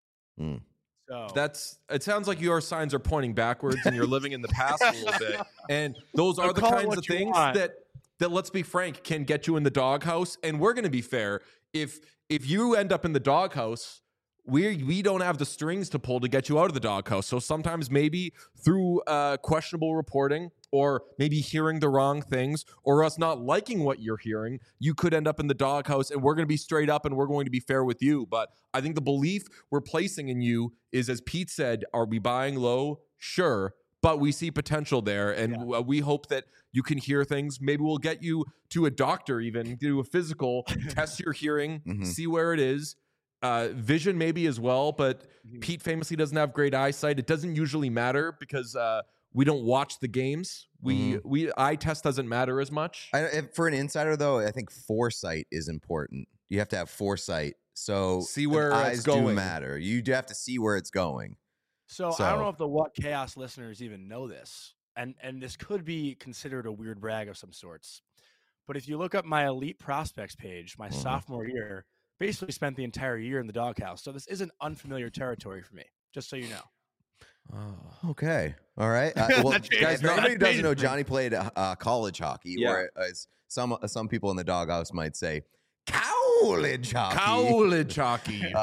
So it sounds like your signs are pointing backwards and you're living in the past a little bit. And those are the kinds of things that let's be frank, can get you in the doghouse. And we're going to be fair. If you end up in the doghouse, we don't have the strings to pull to get you out of the doghouse. So sometimes maybe through questionable reporting, or maybe hearing the wrong things, or us not liking what you're hearing, you could end up in the doghouse, and we're going to be straight up and we're going to be fair with you. But I think the belief we're placing in you is, as Pete said, are we buying low? Sure. but we see potential there, and we hope that you can hear things. Maybe we'll get you to a doctor, even do a physical, test your hearing, see where it is. Vision maybe as well, but Pete famously doesn't have great eyesight. It doesn't usually matter because we don't watch the games. We eye test doesn't matter as much. For an insider, though, I think foresight is important. You have to have foresight. So see where eyes it's going. do matter. You do have to see where it's going. So I don't know if the What Chaos listeners even know this, and this could be considered a weird brag of some sorts. But if you look up my elite prospects page, my sophomore year, basically spent the entire year in the doghouse. So this isn't unfamiliar territory for me, just so you know. Oh. Okay. All right. Well, guys, nobody doesn't know Johnny played college hockey, or as some people in the doghouse might say, college hockey. College hockey.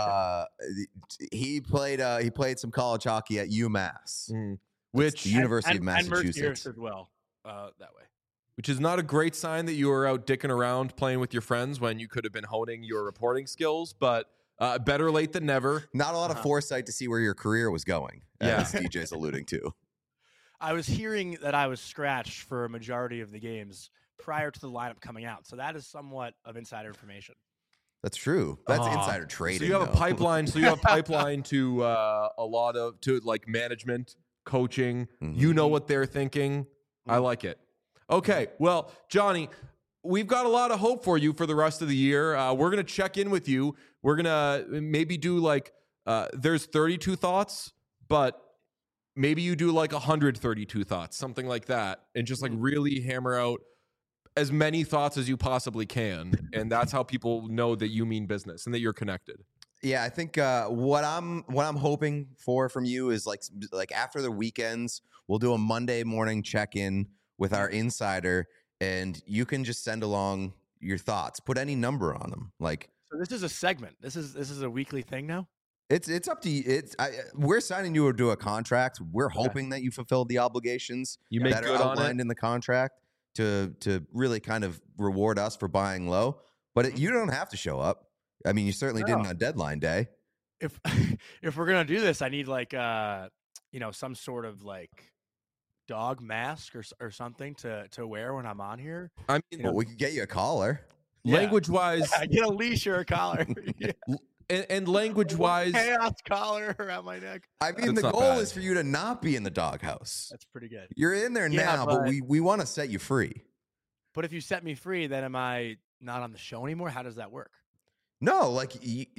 He played some college hockey at UMass, which the University of Massachusetts as well. That way. Which is not a great sign that you were out dicking around playing with your friends when you could have been honing your reporting skills, but better late than never. Not a lot of foresight to see where your career was going, as DJ's alluding to. I was hearing that I was scratched for a majority of the games prior to the lineup coming out, so that is somewhat of insider information. That's true. That's insider trading. So you have a pipeline. So you have a pipeline to a lot of like management, coaching. You know what they're thinking. I like it. Okay, well, Johnny, we've got a lot of hope for you for the rest of the year. We're going to check in with you. We're going to maybe do like, there's 32 thoughts, but maybe you do like 132 thoughts, something like that, and just like really hammer out as many thoughts as you possibly can. And that's how people know that you mean business and that you're connected. Yeah, I think what I'm hoping for from you is like after the weekends, we'll do a Monday morning check-in with our insider, and you can just send along your thoughts. Put any number on them. So this is a segment. This is a weekly thing now. It's up to you. We're signing you to a contract. We're hoping that you fulfilled the obligations that are outlined in the contract to really kind of reward us for buying low. But you don't have to show up. I mean, you certainly didn't on deadline day. If we're gonna do this, I need like some sort of like dog mask or something to wear when I'm on here. I mean, we could get you a collar. Language wise, get a leash or a collar. and language wise, chaos collar around my neck. I mean, the goal is for you to not be in the doghouse. That's pretty good. You're in there now, but we want to set you free. But if you set me free, then am I not on the show anymore? How does that work? No, like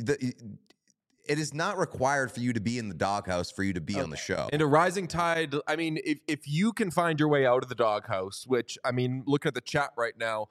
it is not required for you to be in the doghouse for you to be on the show. And a rising tide, I mean, if you can find your way out of the doghouse, which, I mean, looking at the chat right now,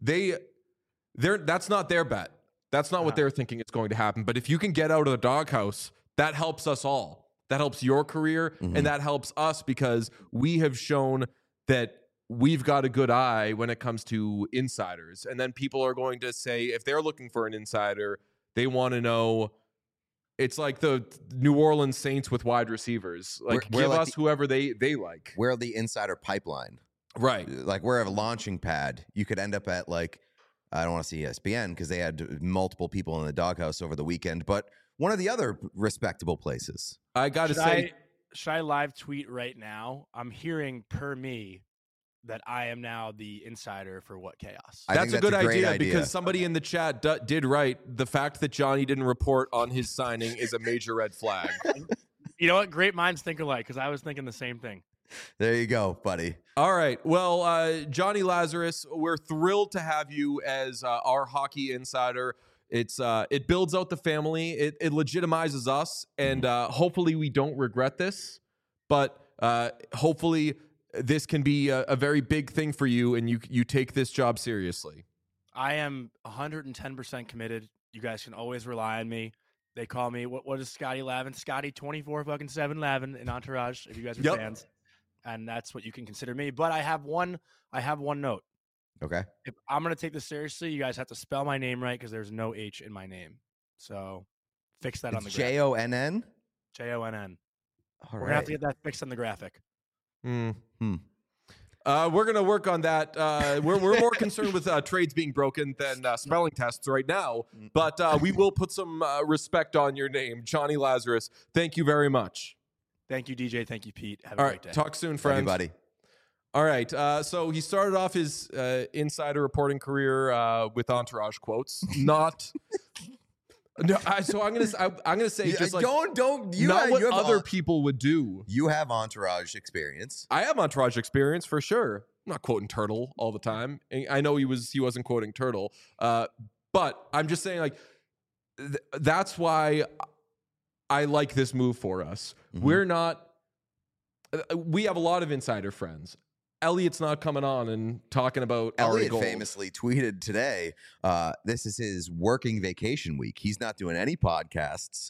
that's not their bet. That's not what they're thinking is going to happen. But if you can get out of the doghouse, that helps us all. That helps your career, and that helps us because we have shown that we've got a good eye when it comes to insiders. And then people are going to say, if they're looking for an insider, they want to know. It's like the New Orleans Saints with wide receivers. Like, give us whoever they like. We're the insider pipeline. Right. Like, we're a launching pad. You could end up at, like, I don't want to see ESPN because they had multiple people in the doghouse over the weekend, but one of the other respectable places. I got to say. Should I live tweet right now? I'm hearing per me that I am now the insider for What Chaos. That's a good idea because somebody in the chat did write the fact that Johnny didn't report on his signing is a major red flag. You know what? Great minds think alike because I was thinking the same thing. There you go, buddy. All right. Well, Johnny Lazarus, we're thrilled to have you as our hockey insider. It builds out the family. It legitimizes us, and hopefully we don't regret this. But hopefully this can be a very big thing for you, and you take this job seriously. I am 110% committed. You guys can always rely on me. They call me what is Scotty Lavin? Scotty 24/7 Lavin in Entourage. If you guys are fans, and that's what you can consider me. But I have one note. Okay. If I'm gonna take this seriously, you guys have to spell my name right because there's no H in my name. So fix that on the graphic. JONN. JONN. We're gonna have to get that fixed on the graphic. We're gonna work on that. We're more concerned with trades being broken than spelling tests right now. But we will put some respect on your name, Johnny Lazarus. Thank you very much. Thank you, DJ. Thank you, Pete. Have a All great right. day. Talk soon, friends. Everybody. All right. So he started off his insider reporting career with Entourage quotes. Not. No, so I'm gonna say just like don't you not have, what you have other people would do. You have Entourage experience. I have Entourage experience for sure. I'm not quoting Turtle all the time. And I know he wasn't quoting Turtle, but I'm just saying like that's why I like this move for us. Mm-hmm. We're not. We have a lot of insider friends. Elliot's not coming on and talking about Elliot famously tweeted today, this is his working vacation week. He's not doing any podcasts.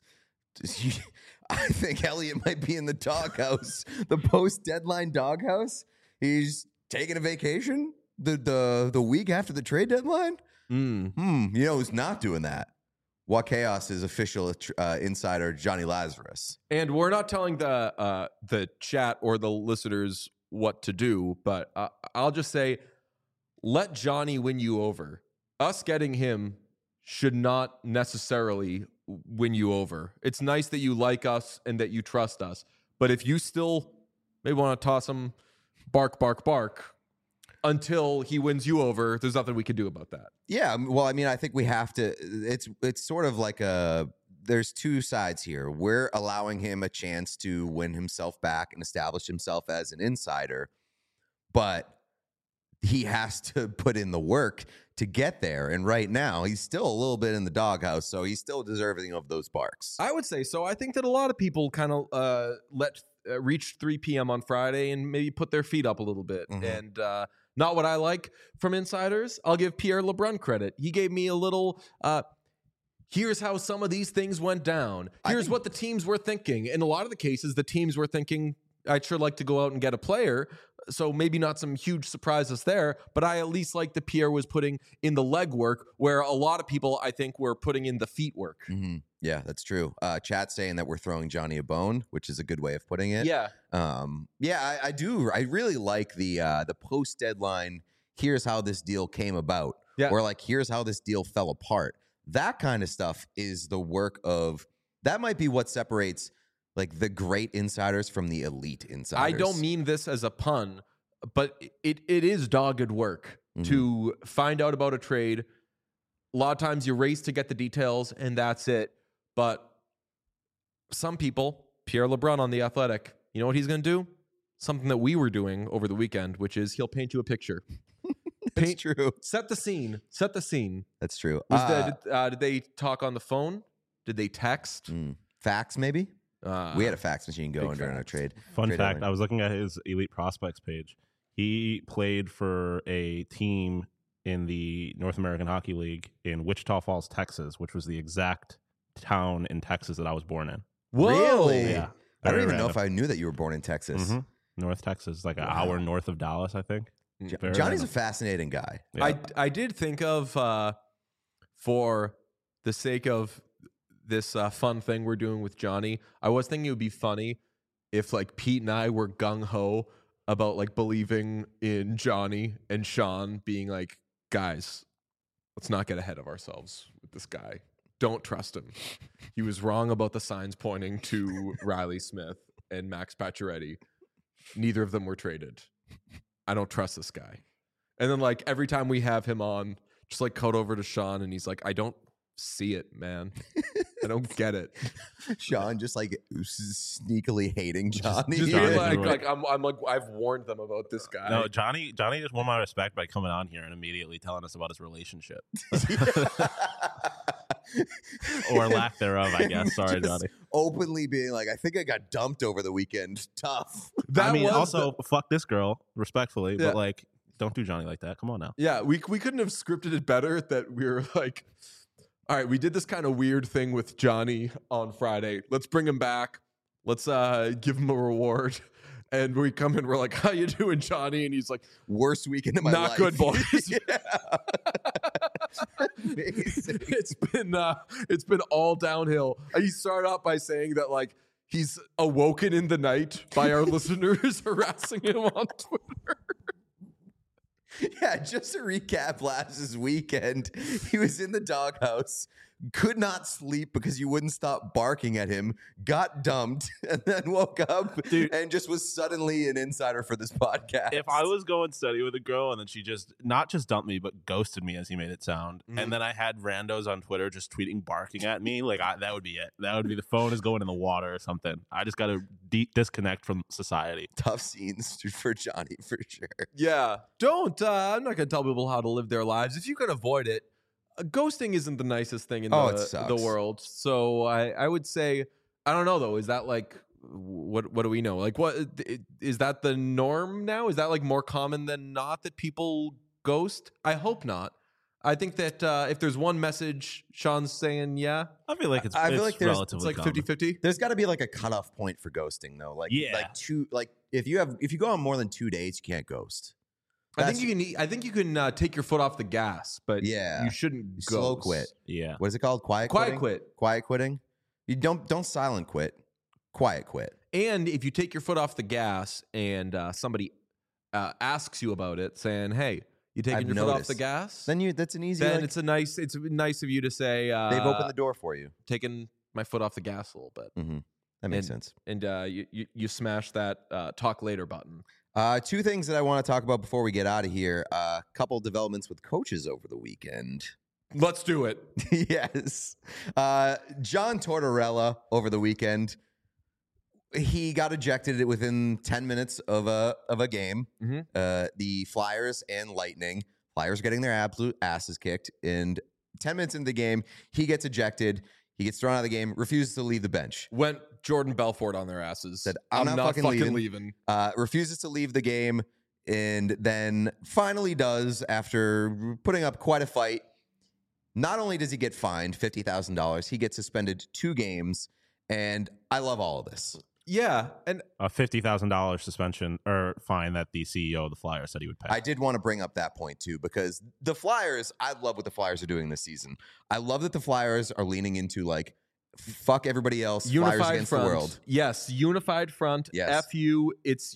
I think Elliot might be in the doghouse, the post-deadline doghouse. He's taking a vacation the week after the trade deadline. You know who's not doing that? What Chaos's official insider, Johnny Lazarus. And we're not telling the chat or the listeners what to do, but I'll just say, let Johnny win you over. Us getting him should not necessarily win you over. It's nice that you like us and that you trust us, but if you still maybe want to toss him bark, bark, bark until he wins you over, there's nothing we can do about that. Yeah, well, I mean, I think we have to. It's sort of like there's two sides here. We're allowing him a chance to win himself back and establish himself as an insider, but he has to put in the work to get there. And right now, he's still a little bit in the doghouse, so he's still deserving of those barks. I would say so. I think that a lot of people kind of reach 3 p.m. on Friday and maybe put their feet up a little bit. Mm-hmm. And not what I like from insiders. I'll give Pierre LeBrun credit. He gave me a little... here's how some of these things went down. Here's what the teams were thinking. In a lot of the cases, the teams were thinking, I'd sure like to go out and get a player. So maybe not some huge surprises there, but I at least like that Pierre was putting in the legwork where a lot of people, I think, were putting in the feet work. Mm-hmm. Yeah, that's true. Chat's saying that we're throwing Johnny a bone, which is a good way of putting it. Yeah. I do. I really like the post-deadline, here's how this deal came about. Yeah. Or like, here's how this deal fell apart. That kind of stuff is the work of, that might be what separates like the great insiders from the elite insiders. I don't mean this as a pun, but it is dogged work to find out about a trade. A lot of times you race to get the details and that's it. But some people, Pierre LeBrun on The Athletic, you know what he's going to do? Something that we were doing over the weekend, which is he'll paint you a picture. That's true. Set the scene. Set the scene. That's true. Did they talk on the phone? Did they text? Fax, maybe? We had a fax machine going during our trade. Fun trade fact, deadline. I was looking at his Elite Prospects page. He played for a team in the North American Hockey League in Wichita Falls, Texas, which was the exact town in Texas that I was born in. Whoa. Really? Yeah. I don't Very even know random. if I knew that you were born in Texas. Mhm. North Texas, like an hour north of Dallas, I think. Very Johnny's random. a fascinating guy. Yeah. I did think of, for the sake of this fun thing we're doing with Johnny, I was thinking it would be funny if like Pete and I were gung-ho about like believing in Johnny and Sean being like, guys, let's not get ahead of ourselves with this guy. Don't trust him. He was wrong about the signs pointing to Riley Smith and Max Pacioretty. Neither of them were traded. I don't trust this guy. And then like every time we have him on, just like cut over to Sean and he's like, I don't see it, man. I don't get it. Sean just like sneakily hating Johnny. Just Johnny being Johnny. like I'm like I've warned them about this guy. No, Johnny just won my respect by coming on here and immediately telling us about his relationship. Or lack thereof, I guess. Sorry, Just Johnny. openly being like, I think I got dumped over the weekend. Tough. That I mean, was also, fuck this girl, respectfully, Yeah. but like, don't do Johnny like that. Come on now. Yeah, we couldn't have scripted it better that we were like, all right, we did this kind of weird thing with Johnny on Friday. Let's bring him back. Let's give him a reward. And we come in, we're like, how you doing, Johnny? And he's like, Worst weekend of my not life. good, boys. Yeah. Amazing. It's been all downhill. He started out by saying that like he's awoken in the night by our listeners harassing him on Twitter. Yeah, just to recap last weekend, he was in the doghouse could not sleep because you wouldn't stop barking at him, got dumped, and then woke up and just was suddenly an insider for this podcast. If I was going steady with a girl and then she just not just dumped me but ghosted me, as he made it sound, and then I had randos on Twitter just tweeting barking at me, like that would be it. That would be the phone is going in the water or something. I just got to disconnect from society. Tough scenes for Johnny for sure. Yeah, don't. I'm not gonna tell people how to live their lives if you can avoid it. Ghosting isn't the nicest thing in the world. So I would say, I don't know though. Is that like what do we know? Like what is that the norm now? Is that like more common than not that people ghost? I hope not. I think that if there's one message Sean's saying, yeah. I feel like it's it's like 50-50. There's got to be like a cutoff point for ghosting though. Like if you go on more than 2 dates, you can't ghost. I think you can take your foot off the gas, but yeah, you shouldn't ghost. Slow quit. Yeah. What is it called? Quiet quitting. You don't silent quit. Quiet quit. And if you take your foot off the gas and somebody asks you about it, saying, "Hey, you taking your foot off the gas?" Then that's an easy. Then it's nice of you to say they've opened the door for you. Taking my foot off the gas a little bit. Mm-hmm. That makes sense. And you smash that talk later button. 2 things that I want to talk about before we get out of here. A couple developments with coaches over the weekend. Let's do it. Yes. John Tortorella over the weekend. He got ejected within 10 minutes of a game. Mm-hmm. The Flyers and Lightning. Flyers getting their absolute asses kicked. And 10 minutes into the game, he gets ejected. He gets thrown out of the game, refuses to leave the bench. Went Jordan Belfort on their asses. Said, I'm not fucking leaving. Refuses to leave the game, and then finally does after putting up quite a fight. Not only does he get fined $50,000, he gets suspended 2 games, and I love all of this. Yeah, and a $50,000 suspension or fine that the CEO of the Flyers said he would pay. I did want to bring up that point too, because the Flyers, I love what the Flyers are doing this season. I love that the Flyers are leaning into like, fuck everybody else. Unified Flyers against front. the world. Yes, unified front. Yes. F you.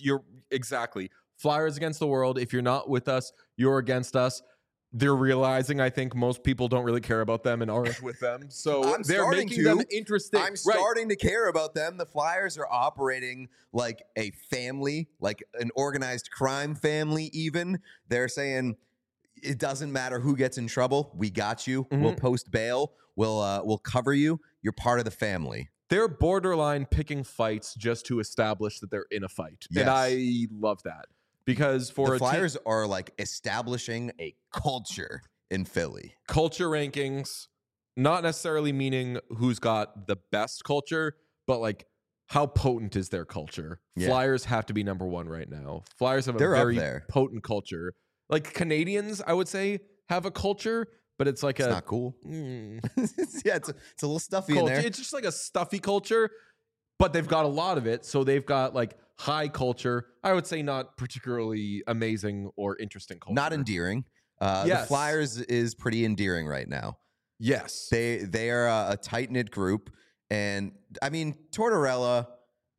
Exactly. Flyers against the world. If you're not with us, you're against us. They're realizing, I think, most people don't really care about them and aren't with them. So they're making them interesting. I'm starting to care about them. The Flyers are operating like a family, like an organized crime family even. They're saying, it doesn't matter who gets in trouble. We got you. Mm-hmm. We'll post bail. We'll cover you. You're part of the family. They're borderline picking fights just to establish that they're in a fight. Yes. And I love that. Because for the Flyers are like establishing a culture in Philly. Culture rankings, not necessarily meaning who's got the best culture, but like how potent is their culture. Yeah. Flyers have to be number 1 right now. Flyers have a very potent culture. Like Canadians, I would say, have a culture, but it's like it's not cool. Yeah, it's a little stuffy culture. In there. It's just like a stuffy culture, but they've got a lot of it. So they've got like high culture. I would say not particularly amazing or interesting culture. Not endearing. Yes. The Flyers is pretty endearing right now. Yes. They are a tight-knit group. And, I mean, Tortorella,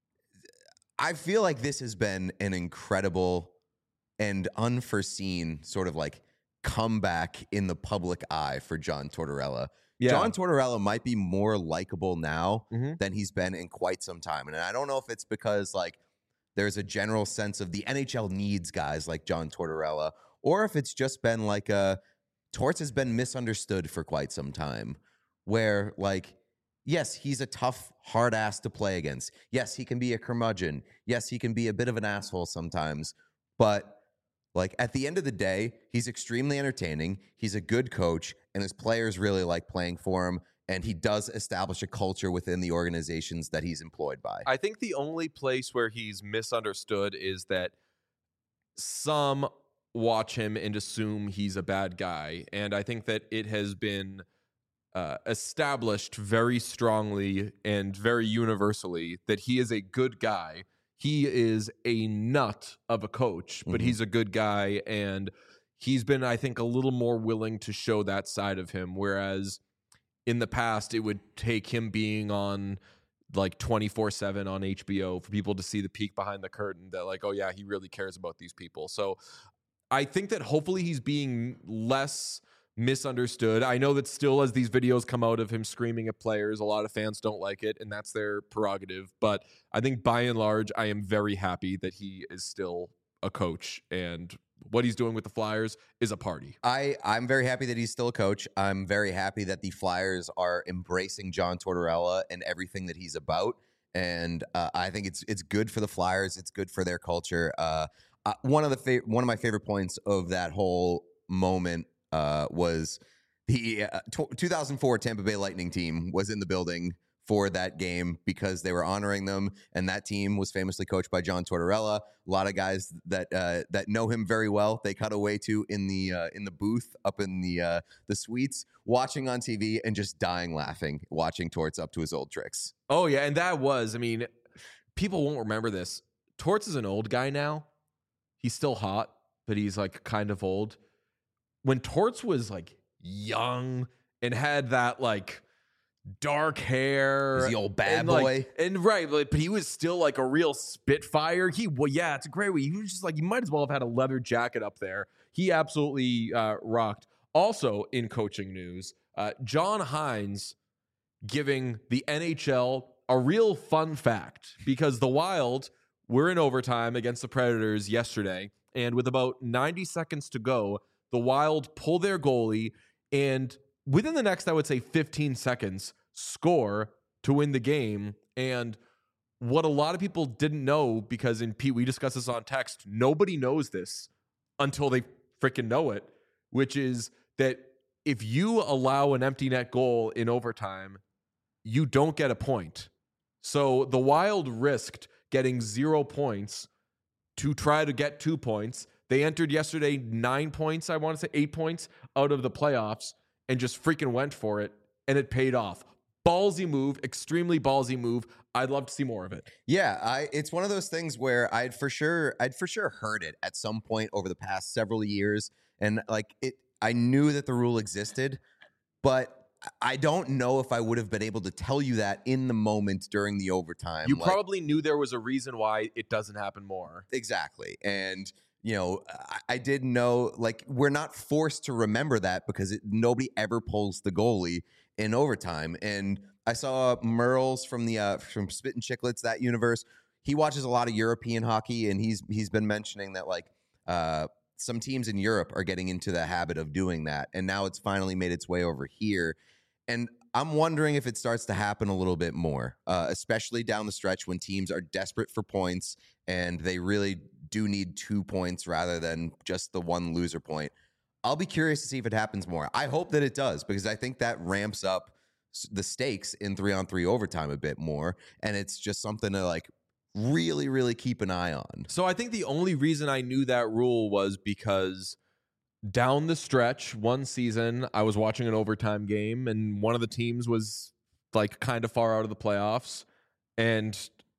I feel like this has been an incredible and unforeseen sort of like comeback in the public eye for John Tortorella. Yeah. John Tortorella might be more likable now than he's been in quite some time. And I don't know if it's because, like, there's a general sense of the NHL needs guys like John Tortorella, or if it's just been like Torts has been misunderstood for quite some time, where like, yes, he's a tough, hard ass to play against. Yes, he can be a curmudgeon. Yes, he can be a bit of an asshole sometimes, but like at the end of the day, he's extremely entertaining. He's a good coach, and his players really like playing for him. And he does establish a culture within the organizations that he's employed by. I think the only place where he's misunderstood is that some watch him and assume he's a bad guy. And I think that it has been established very strongly and very universally that he is a good guy. He is a nut of a coach, but he's a good guy. And he's been, I think, a little more willing to show that side of him. Whereas in the past, it would take him being on like 24/7 on HBO for people to see the peek behind the curtain that like, oh yeah, he really cares about these people. So I think that hopefully he's being less misunderstood. I know that still, as these videos come out of him screaming at players, a lot of fans don't like it, and that's their prerogative. But I think by and large, I am very happy that he is still a coach, and what he's doing with the Flyers is a party. I'm very happy that he's still a coach. I'm very happy that the Flyers are embracing John Tortorella and everything that he's about. And I think it's good for the Flyers. It's good for their culture. One of my favorite points of that whole moment was the 2004 Tampa Bay Lightning team was in the building for that game because they were honoring them, and that team was famously coached by John Tortorella. A lot of guys that know him very well. They cut away to in the booth up in the suites, watching on TV and just dying laughing, watching Torts up to his old tricks. Oh yeah, and that was, I mean, people won't remember this. Torts is an old guy now. He's still hot, but he's like kind of old. When Torts was like young and had that like dark hair, he's the old bad and, boy, like, and right, but he was still like a real spitfire. Yeah, it's a great way. He was just like, you might as well have had a leather jacket up there. He absolutely rocked. Also, in coaching news, John Hines giving the NHL a real fun fact, because the Wild were in overtime against the Predators yesterday, and with about 90 seconds to go, the Wild pull their goalie, and within the next, I would say 15 seconds, score to win the game. And what a lot of people didn't know, because in Pete, we discussed this on text, nobody knows this until they freaking know it, which is that if you allow an empty net goal in overtime, you don't get a point. So the Wild risked getting 0 points to try to get 2 points. They entered yesterday 9 points, I want to say 8 points out of the playoffs, and just freaking went for it, and it paid off. Ballsy move, extremely ballsy move. I'd love to see more of it. Yeah, it's one of those things where I'd for sure heard it at some point over the past several years, and like I knew that the rule existed, but I don't know if I would have been able to tell you that in the moment during the overtime. You probably knew there was a reason why it doesn't happen more. Exactly. And, you know, I did know, like, we're not forced to remember that because nobody ever pulls the goalie in overtime. And I saw Merles from Spit and Chicklets, that universe. He watches a lot of European hockey, and he's been mentioning that, like, some teams in Europe are getting into the habit of doing that, and now it's finally made its way over here. And I'm wondering if it starts to happen a little bit more, especially down the stretch when teams are desperate for points and they really do need 2 points rather than just the one loser point. I'll be curious to see if it happens more. I hope that it does, because I think that ramps up the stakes in 3-on-3 overtime a bit more, and it's just something to like really, really keep an eye on. So I think the only reason I knew that rule was because down the stretch, one season, I was watching an overtime game, and one of the teams was like kind of far out of the playoffs, and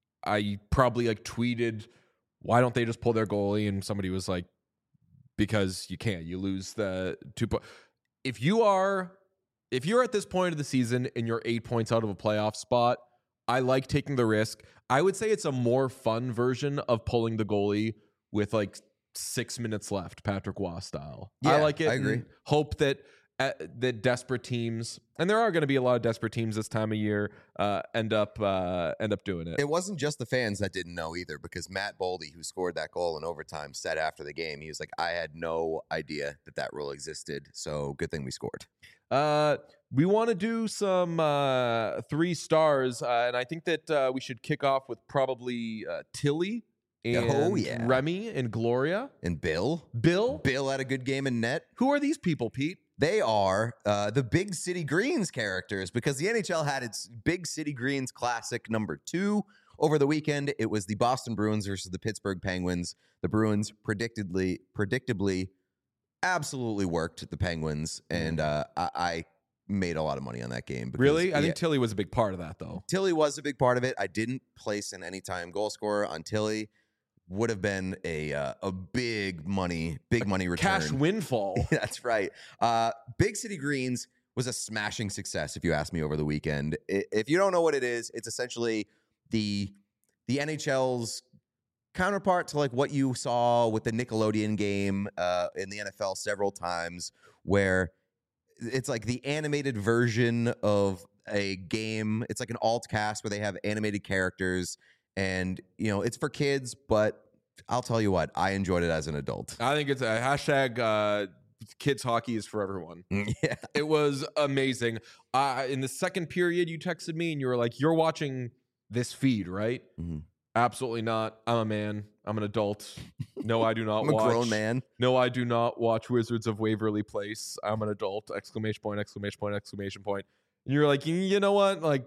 I probably like tweeted, why don't they just pull their goalie? And somebody was like, because you can't. You lose the 2 points. If you're at this point of the season and you're 8 points out of a playoff spot, I like taking the risk. I would say it's a more fun version of pulling the goalie with like 6 minutes left, Patrick Waugh style. Yeah, I like it. I agree. Hope that that desperate teams, and there are going to be a lot of desperate teams this time of year, end up doing it. It wasn't just the fans that didn't know either, because Matt Boldy, who scored that goal in overtime, said after the game, he was like, I had no idea that rule existed, so good thing we scored. We want to do some 3 stars, and I think that we should kick off with probably Tilly and Remy and Gloria. And Bill had a good game in net. Who are these people, Pete? They are the Big City Greens characters, because the NHL had its Big City Greens Classic number 2 over the weekend. It was the Boston Bruins versus the Pittsburgh Penguins. The Bruins predictably absolutely worked the Penguins, and I made a lot of money on that game. Because, really? I think Tilly was a big part of that, though. Tilly was a big part of it. I didn't place an anytime goal scorer on Tilly. Would have been a big money return. Cash windfall. That's right. Big City Greens was a smashing success, if you ask me, over the weekend. If you don't know what it is, it's essentially the NHL's counterpart to like what you saw with the Nickelodeon game in the NFL several times, where it's like the animated version of a game. It's like an alt cast where they have animated characters, and it's for kids, but I'll tell you what, I enjoyed it as an adult. I think it's a hashtag kids hockey is for everyone. Yeah. It was amazing. In the second period, you texted me and you were like, you're watching this feed, right? Mm-hmm. Absolutely not. I'm a man. I'm an adult. No, I do not I'm watch. a grown man. No, I do not watch Wizards of Waverly Place. I'm an adult. Exclamation point, exclamation point, exclamation point. And you're like, you know what? Like,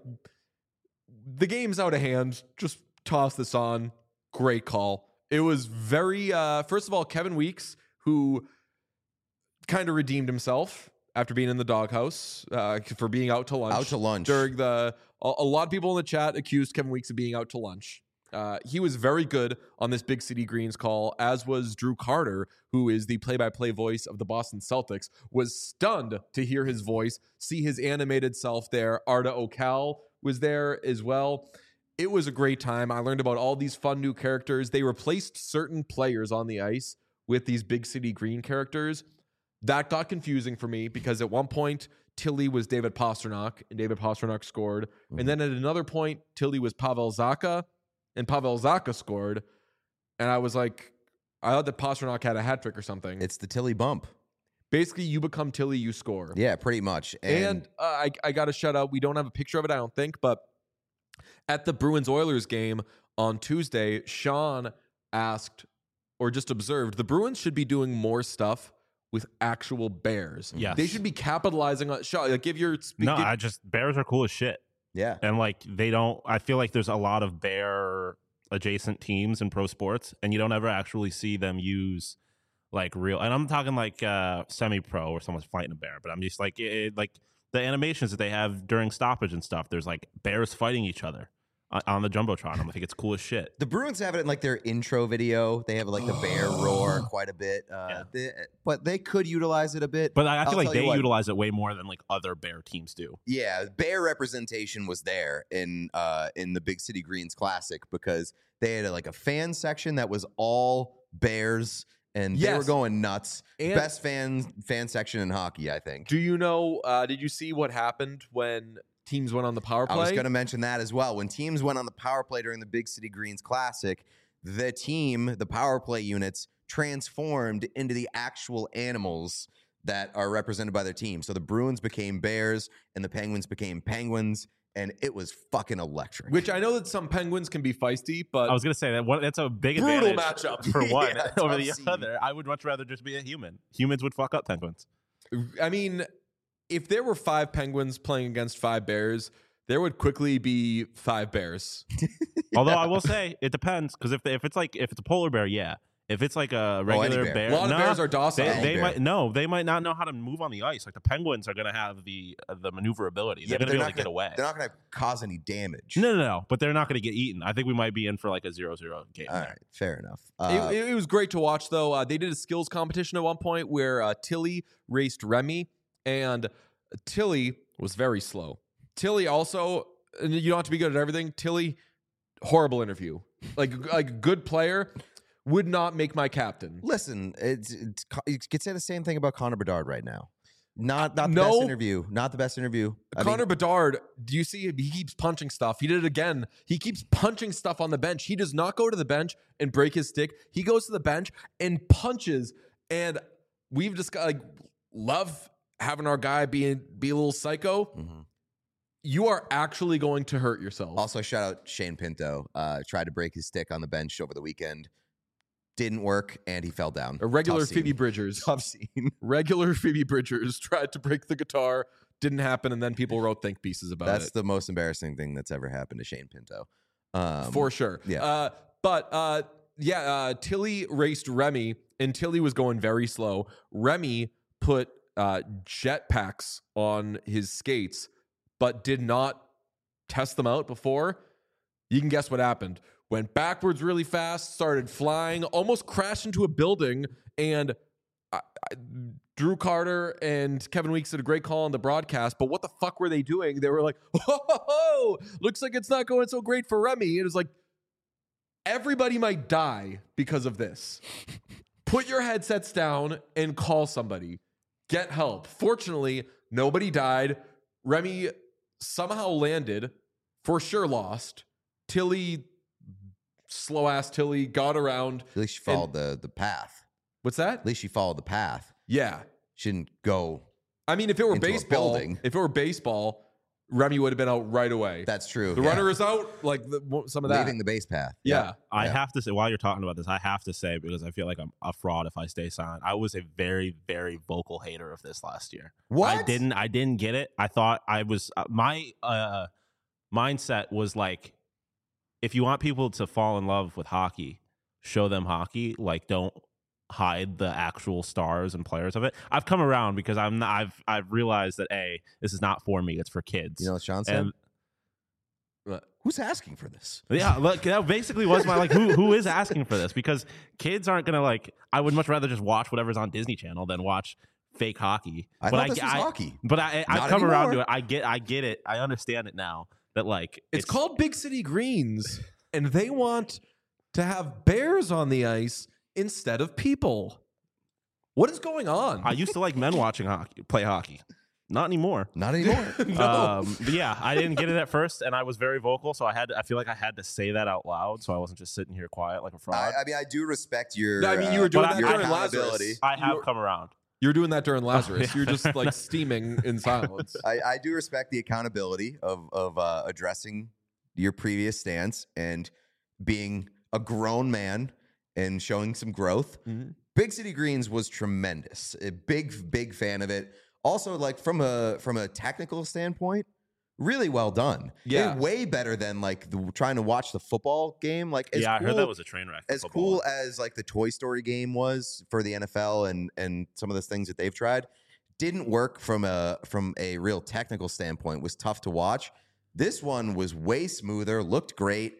the game's out of hand. Just toss this on. Great call. It was very, first of all, Kevin Weeks, who kind of redeemed himself after being in the doghouse for being out to lunch. Out to lunch. During a lot of people in the chat accused Kevin Weeks of being out to lunch. He was very good on this Big City Greens call, as was Drew Carter, who is the play-by-play voice of the Boston Celtics, was stunned to hear his voice, see his animated self there. Arda Ocal was there as well. It was a great time. I learned about all these fun new characters. They replaced certain players on the ice with these Big City Green characters. That got confusing for me because at one point, Tilly was David Pastrnak, and David Pastrnak scored. Mm-hmm. And then at another point, Tilly was Pavel Zacha, and Pavel Zacha scored. And I was like, I thought that Pastrnak had a hat trick or something. It's the Tilly bump. Basically, you become Tilly, you score. Yeah, pretty much. And I got to shout out, we don't have a picture of it, I don't think, but at the Bruins-Oilers game on Tuesday, Sean asked, or just observed, the Bruins should be doing more stuff with actual bears. Yes. They should be capitalizing on, Sean, like, give your... bears are cool as shit. Yeah. And I feel like there's a lot of bear adjacent teams in pro sports, and you don't ever actually see them use like real, and I'm talking like semi-pro where someone's fighting a bear, but I'm just like, like the animations that they have during stoppage and stuff, there's like bears fighting each other on the Jumbotron. I'm like, it's cool as shit. The Bruins have it in like their intro video. They have like the bear roar quite a bit, but they could utilize it a bit. But I feel like they utilize it way more than like other bear teams do. Yeah, bear representation was there in the Big City Greens Classic because they had a fan section that was all bears. And they were going nuts. And best fan section in hockey, I think. Do you know, did you see what happened when teams went on the power play? I was going to mention that as well. When teams went on the power play during the Big City Greens Classic, the power play units transformed into the actual animals that are represented by their team. So the Bruins became bears and the Penguins became penguins. And it was fucking electric. Which I know that some Penguins can be feisty, but I was going to say that's a big brutal advantage matchup for one over the scene. other. I would much rather just be a human. Humans would fuck up Penguins. I mean, if there were 5 Penguins playing against 5 Bears, there would quickly be 5 Bears. Although I will say it depends, because if it's a polar bear, yeah. If it's like a regular bear, a lot of bears are docile. They might not know how to move on the ice. Like the Penguins are going to have the maneuverability. They're going to be able to get away. They're not going to cause any damage. No. But they're not going to get eaten. I think we might be in for like a 0-0 game. All right, fair enough. It was great to watch, though. They did a skills competition at one point where Tilly raced Remy, and Tilly was very slow. Tilly also, and you don't have to be good at everything. Tilly, horrible interview. Like good player. Would not make my captain. Listen, you could say the same thing about Connor Bedard right now. Not the best interview. Not the best interview. Connor Bedard, do you see him? He keeps punching stuff. He did it again. He keeps punching stuff on the bench. He does not go to the bench and break his stick. He goes to the bench and punches. And we've just got love having our guy be a little psycho. Mm-hmm. You are actually going to hurt yourself. Also, shout out Shane Pinto. Tried to break his stick on the bench over the weekend. Didn't work, and he fell down. A regular Phoebe Bridgers. Tough scene. Regular Phoebe Bridgers tried to break the guitar. Didn't happen, and then people wrote think pieces about it. That's the most embarrassing thing that's ever happened to Shane Pinto. For sure. Yeah. Tilly raced Remy, and Tilly was going very slow. Remy put jetpacks on his skates, but did not test them out before. You can guess what happened. Went backwards really fast, started flying, almost crashed into a building, and Drew Carter and Kevin Weeks did a great call on the broadcast, but what the fuck were they doing? They were like, oh, looks like it's not going so great for Remy. It was like, everybody might die because of this. Put your headsets down and call somebody. Get help. Fortunately, Nobody died. Remy somehow landed, for sure lost. Tilly, slow ass Tilly, got around. At least she followed the path. What's that? At least she followed the path. Yeah. She didn't go. I mean, if it were into a baseball, building. Remy would have been out right away. That's true. The runner is out, like some of that. Leaving the base path. Yeah. I have to say, while you're talking about this, I have to say, because I feel like I'm a fraud if I stay silent, I was a very, very vocal hater of this last year. What? I didn't get it. I thought I was my mindset was like, if you want people to fall in love with hockey, show them hockey. Like, don't hide the actual stars and players of it. I've come around because I've realized that this is not for me. It's for kids. You know what Sean said? And who's asking for this? yeah, look, that basically was my like, who is asking for this? Because kids aren't gonna like. I would much rather just watch whatever's on Disney Channel than watch fake hockey. I thought this was hockey. But I've Not come around anymore. to it. I get it. I understand it now. That like It's called Big City Greens, and they want to have bears on the ice instead of people. What is going on? I used to like men watching play hockey. Not anymore. Not anymore. No. But yeah, I didn't get it at first, and I was very vocal, so I feel like I had to say that out loud, so I wasn't just sitting here quiet like a fraud. I mean, I do respect your. I mean, you were doing but that your during accountability. Lazarus. I have come around. You're doing that during Lazarus. yeah. You're just like steaming in silence. I do respect the accountability of addressing your previous stance and being a grown man and showing some growth. Mhm. Big City Greens was tremendous. A big fan of it. Also, like from a technical standpoint, really well done. Yeah. Way better than like trying to watch the football game. Like, I cool, heard that was a train wreck. for as football. cool as like the Toy Story game was for the NFL and some of the things that they've tried, didn't work from a real technical standpoint. Was tough to watch. This one was way smoother, looked great,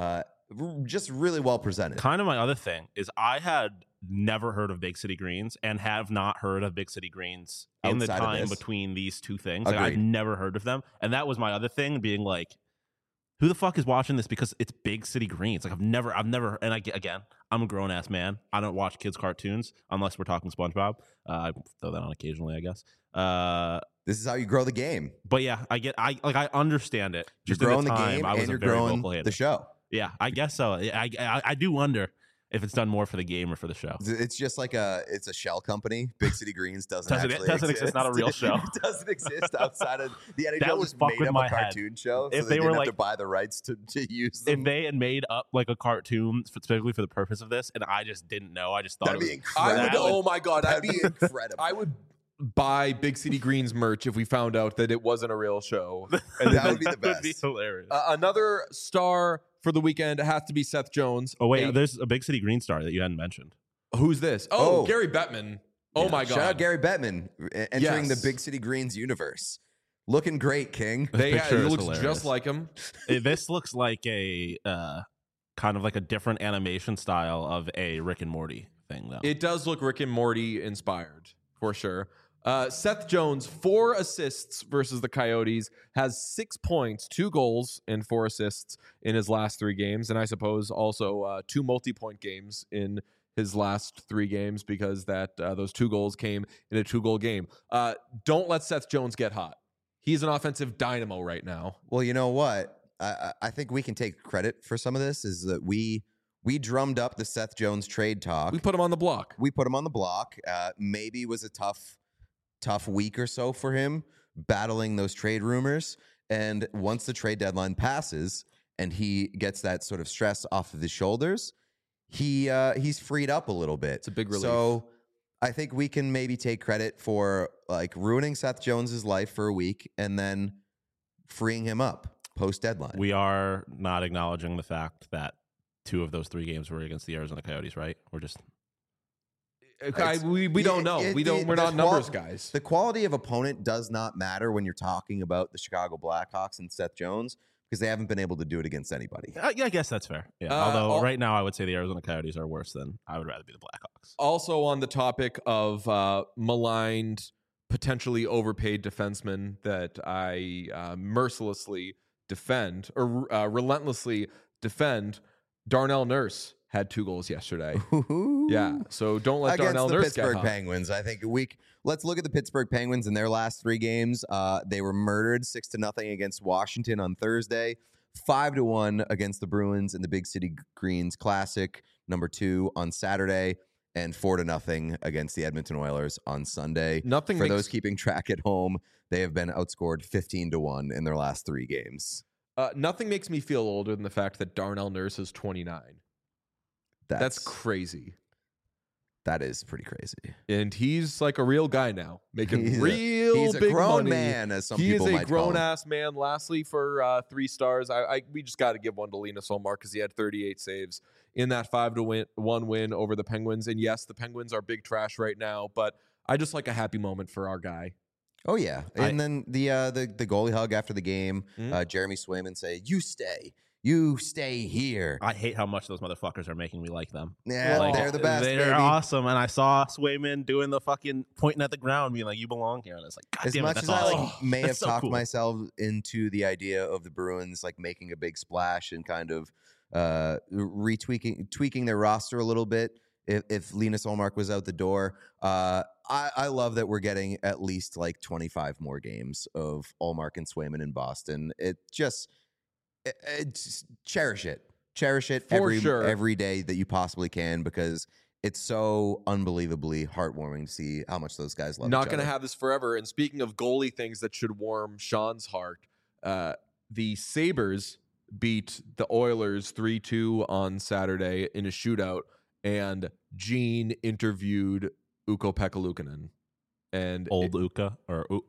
just really well presented. Kind of my other thing is I had never heard of Big City Greens and have not heard of Big City Greens in the Outside of time this. between these two things. Like, I've Agreed. never heard of them. And that was my other thing, being like, who the fuck is watching this? Because it's Big City Greens. Like I've never, and again, I'm a grown ass man. I don't watch kids' cartoons unless we're talking SpongeBob. I throw that on occasionally, I guess. This is how you grow the game. But yeah, I understand it. You're Just in growing the time, game I was and a you're very growing vocal hater. the show. Yeah, I guess so. I do wonder if it's done more for the game or for the show. It's just like it's a shell company. Big City Greens doesn't Doesn't actually exist, not a real show. It doesn't exist outside of the NHL. That would Just fuck made with up my a head. cartoon show. If So they they were didn't have like- to buy the rights to use them. If they had made up like a cartoon specifically for the purpose of this, and I just didn't know, I just thought That'd it be was, incredible. Oh my god, That'd be incredible. I would buy Big City Greens merch if we found out that it wasn't a real show. And That would be the would best. be hilarious. Another star for the weekend has to be Seth Jones. Oh wait, Hey, there's a Big City Green star that you hadn't mentioned. who's this? Oh, Oh. Gary Bettman. Oh Yeah. my god. Shout out Gary Bettman entering Yes. the Big City Greens universe. Looking great, King. They This picture it is looks hilarious. just like him. This looks like a kind of like a different animation style of a Rick and Morty thing, though. It does look Rick and Morty inspired for sure. Seth Jones, 4 assists versus the Coyotes, has 6 points, 2 goals, and 4 assists in his last 3 games. And I suppose also 2 multi-point games in his last 3 games because those 2 goals came in a 2-goal game. Don't let Seth Jones get hot. He's an offensive dynamo right now. Well, you know what? I think we can take credit for some of this. Is that we drummed up the Seth Jones trade talk. We put him on the block. We put him on the block. Maybe it was a tough week or so for him battling those trade rumors. And once the trade deadline passes and he gets that sort of stress off of his shoulders, he's freed up a little bit. It's a big relief. So I think we can maybe take credit for like ruining Seth Jones's life for a week and then freeing him up post deadline. We are not acknowledging the fact that 2 of those 3 games were against the Arizona Coyotes, right? We're just We don't know. We're not numbers guys. The quality of opponent does not matter when you're talking about the Chicago Blackhawks and Seth Jones because they haven't been able to do it against anybody. yeah, I guess that's fair. Yeah. Although right now I would say the Arizona Coyotes are worse than I would rather be the Blackhawks. Also on the topic of maligned, potentially overpaid defensemen that I mercilessly defend or relentlessly defend, Darnell Nurse had 2 goals yesterday. Ooh. Yeah, so don't let Against Darnell the Nurse get Pittsburgh hot. Penguins. I think let's look at the Pittsburgh Penguins in their last 3 games. They were murdered 6-0 against Washington on Thursday, 5-1 against the Bruins in the Big City Greens Classic #2 on Saturday, and 4-0 against the Edmonton Oilers on Sunday. For those keeping track at home, they have been outscored 15-1 in their last 3 games. Nothing makes me feel older than the fact that Darnell Nurse is 29. That's crazy. That is pretty crazy. And he's like a real guy now, making He's big a grown money. man, as some he people is a might call him. grown-ass man. Lastly, for 3 stars, we just got to give one to Linus Ullmark because he had 38 saves in that 5-1 win over the Penguins. And yes, the Penguins are big trash right now, but I just like a happy moment for our guy. Oh yeah, and then the goalie hug after the game. Jeremy Swayman say, "You stay here." I hate how much those motherfuckers are making me like them. Yeah, Like, they're the best. They're baby. awesome, and I saw Swayman doing the fucking pointing at the ground, being like, "You belong here," and it's like, God As damn much it, as that's I awesome. may have That's so talked cool. myself into the idea of the Bruins like making a big splash and kind of tweaking their roster a little bit if Linus Ullmark was out the door. I love that we're getting at least like 25 more games of Ullmark and Swayman in Boston. Just cherish it. Cherish it every day that you possibly can, because it's so unbelievably heartwarming to see how much those guys love each other. Not going to have this forever. And speaking of goalie things that should warm Sean's heart, the Sabres beat the Oilers 3-2 on Saturday in a shootout, and Gene interviewed Ukko-Pekka Luukkonen. And Old Pekka.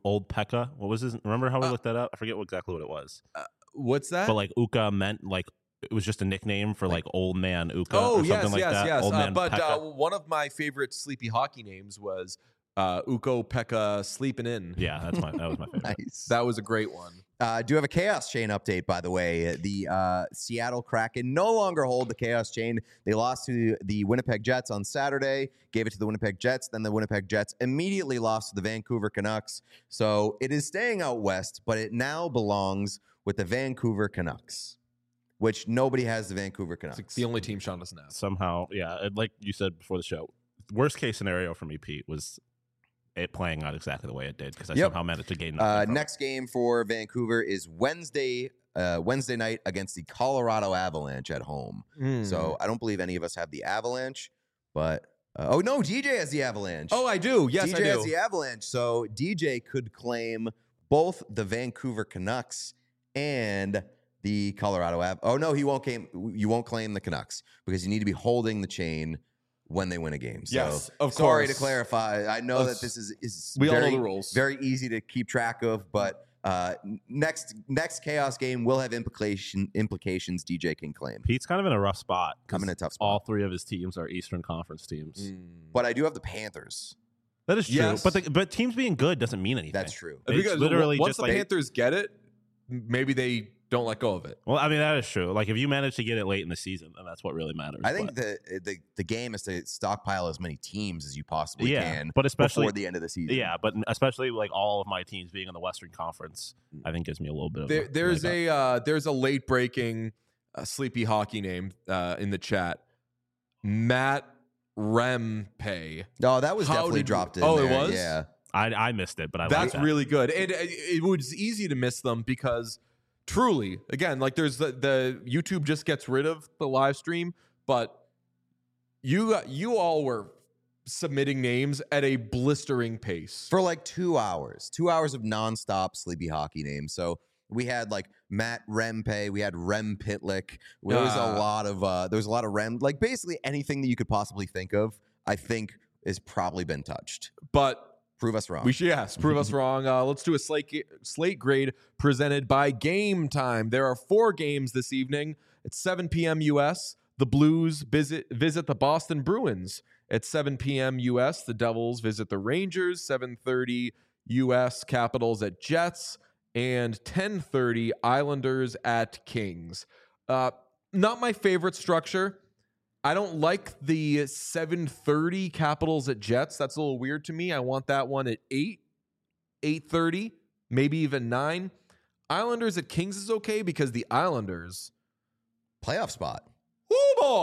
What was his? Remember how we looked that up? I forget exactly what it was. What's that? But like Ukko meant like it was just a nickname for like old man Ukko Oh, or something like that. yes. Old man But Pekka. one of my favorite sleepy hockey names was Ukko-Pekka Sleeping In. Yeah, that was my favorite. Nice. That was a great one. Do have a Chaos Chain update, by the way. The Seattle Kraken no longer hold the Chaos Chain. They lost to the Winnipeg Jets on Saturday, gave it to the Winnipeg Jets. Then the Winnipeg Jets immediately lost to the Vancouver Canucks. So it is staying out west, but it now belongs with the Vancouver Canucks, which nobody has the Vancouver Canucks. It's the only team Sean doesn't have. Somehow, yeah, and like you said before the show, worst case scenario for me, Pete, was it playing out exactly the way it did, because I somehow managed to gain nothing from next game for Vancouver is Wednesday night against the Colorado Avalanche at home. So I don't believe any of us have the Avalanche, but oh no, DJ has the Avalanche. Oh, I do. Yes, DJ I do. has the Avalanche, so DJ could claim both the Vancouver Canucks and the Colorado Oh no, he won't claim. You won't claim the Canucks because you need to be holding the chain when they win a game. So, Yes, of sorry course. to clarify. I know that this is We all very, know the rules. very easy to keep track of, but next Chaos game will have implications DJ can claim. Pete's kind of in a rough spot. I'm in a tough spot. All 3 of his teams are Eastern Conference teams. But I do have the Panthers. That is true. Yes. But teams being good doesn't mean anything. That's true. It's Because literally once just the like Panthers get it, maybe they don't let go of it. well, I mean that is true. Like if you manage to get it late in the season, then that's what really matters. I think But- the game is to stockpile as many teams as you possibly Yeah, can, but especially- before the end of the season. yeah, but especially like all of my teams being in the Western Conference, I think gives me a little bit of There's leg up. a late breaking sleepy hockey name in the chat. Matt Rempe. No, that was How definitely did- dropped in. Oh, it there. was? Yeah. I missed it, but I That's like that. really good. And it was easy to miss them because truly, again, like there's the YouTube just gets rid of the live stream, but you all were submitting names at a blistering pace. For like 2 hours. 2 hours of nonstop sleepy hockey names. So we had like Matt Rempe, we had Rem Pitlick. There was a lot of Rem, like basically anything that you could possibly think of, I think has probably been touched. But Prove us wrong. we should, yes, prove us wrong. Let's do a slate grade presented by Game Time. There are 4 games this evening at 7 p.m. U.S. The Blues visit the Boston Bruins. At 7 p.m. U.S., the Devils visit the Rangers. 7:30 U.S., Capitals at Jets. And 10:30 Islanders at Kings. Not my favorite structure. I don't like the 7:30 Capitals at Jets. That's a little weird to me. I want that one at 8, 8:30, maybe even 9. Islanders at Kings is okay because the Islanders, Playoff spot. oh boy,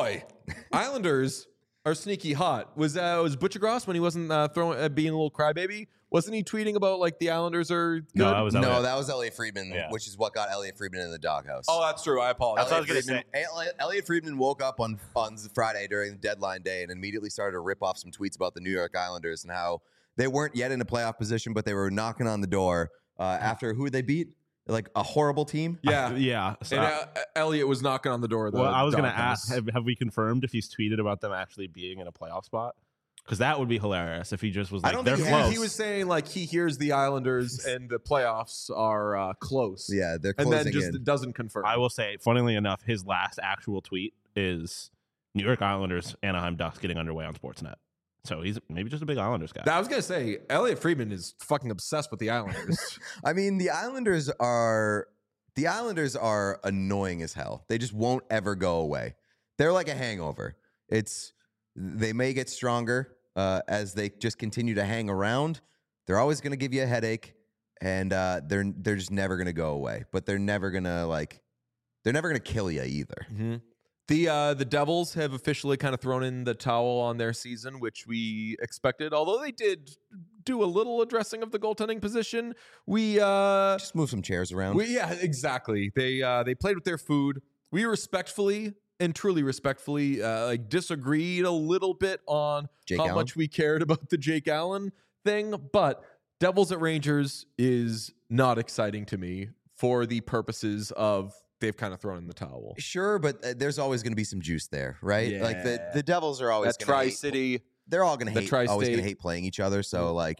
Islanders are sneaky hot. Was Butcher Gross when he wasn't being a little crybaby? Wasn't he tweeting about like the Islanders are good? No, that was Elliot. No, that was Elliot Friedman, Yeah. which is what got Elliot Friedman in the doghouse. Oh, that's true. I apologize. Elliot Friedman woke up on Friday during the deadline day and immediately started to rip off some tweets about the New York Islanders and how they weren't yet in a playoff position, but they were knocking on the door after who they beat? Like a horrible team? Yeah. Yeah. So And Elliot was knocking on the door of the I was going to doghouse. ask, have we confirmed if he's tweeted about them actually being in a playoff spot? Because that would be hilarious if he just was I like, don't they're think close. He was saying like he hears the Islanders and the playoffs are close. Yeah, they're And closing then just in. doesn't confirm. I will say, funnily enough, his last actual tweet is New York Islanders, Anaheim Ducks getting underway on Sportsnet. So he's maybe just a big Islanders guy. I was going to say, Elliot Friedman is fucking obsessed with the Islanders. I mean, the Islanders are annoying as hell. They just won't ever go away. They're like a hangover. They may get stronger as they just continue to hang around. They're always going to give you a headache, and they're just never going to go away. But they're never going to kill you either. Mm-hmm. The Devils have officially kind of thrown in the towel on their season, which we expected. Although they did do a little addressing of the goaltending position, we Just move some chairs around. yeah, exactly. They played with their food. We respectfully and truly respectfully disagreed a little bit on Jake how Allen? much we cared about the Jake Allen thing, but Devils at Rangers is not exciting to me for the purposes of they've kind of thrown in the towel. Sure, but there's always going to be some juice there, right? Like Yeah. the Devils are always That going to Tri-City. they're all going to the hate, always going Tri-State. to hate playing each other. So like,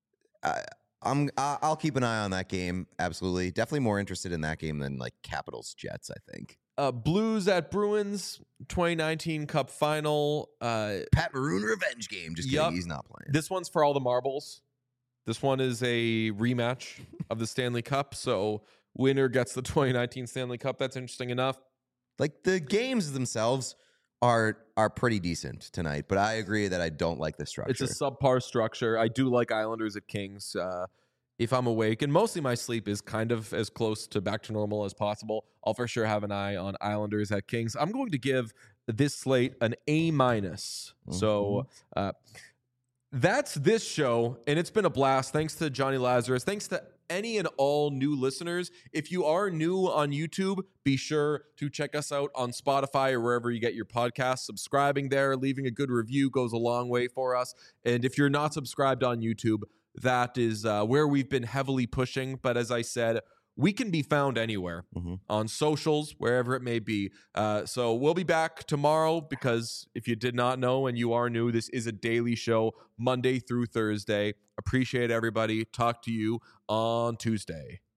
I'll keep an eye on that game. Absolutely, definitely more interested in that game than like Capitals Jets. I think Blues at Bruins 2019 Cup Final. Pat Maroon revenge game. Just Yup. kidding, he's not playing. This one's for all the marbles. This one is a rematch of the Stanley Cup. So winner gets the 2019 Stanley Cup. That's interesting enough. Like the games themselves are pretty decent tonight, but I agree that I don't like the structure. It's a subpar structure. I do like Islanders at Kings. If I'm awake, and mostly my sleep is kind of as close to back to normal as possible, I'll for sure have an eye on Islanders at Kings. I'm going to give this slate an A-. So that's this show, and it's been a blast. Thanks to Johnny Lazarus. Thanks to any and all new listeners. If you are new on YouTube, be sure to check us out on Spotify or wherever you get your podcasts. Subscribing there, leaving a good review goes a long way for us. And if you're not subscribed on YouTube, that is where we've been heavily pushing. But as I said, we can be found anywhere on socials, wherever it may be. So we'll be back tomorrow because if you did not know and you are new, this is a daily show, Monday through Thursday. Appreciate everybody. Talk to you on Tuesday.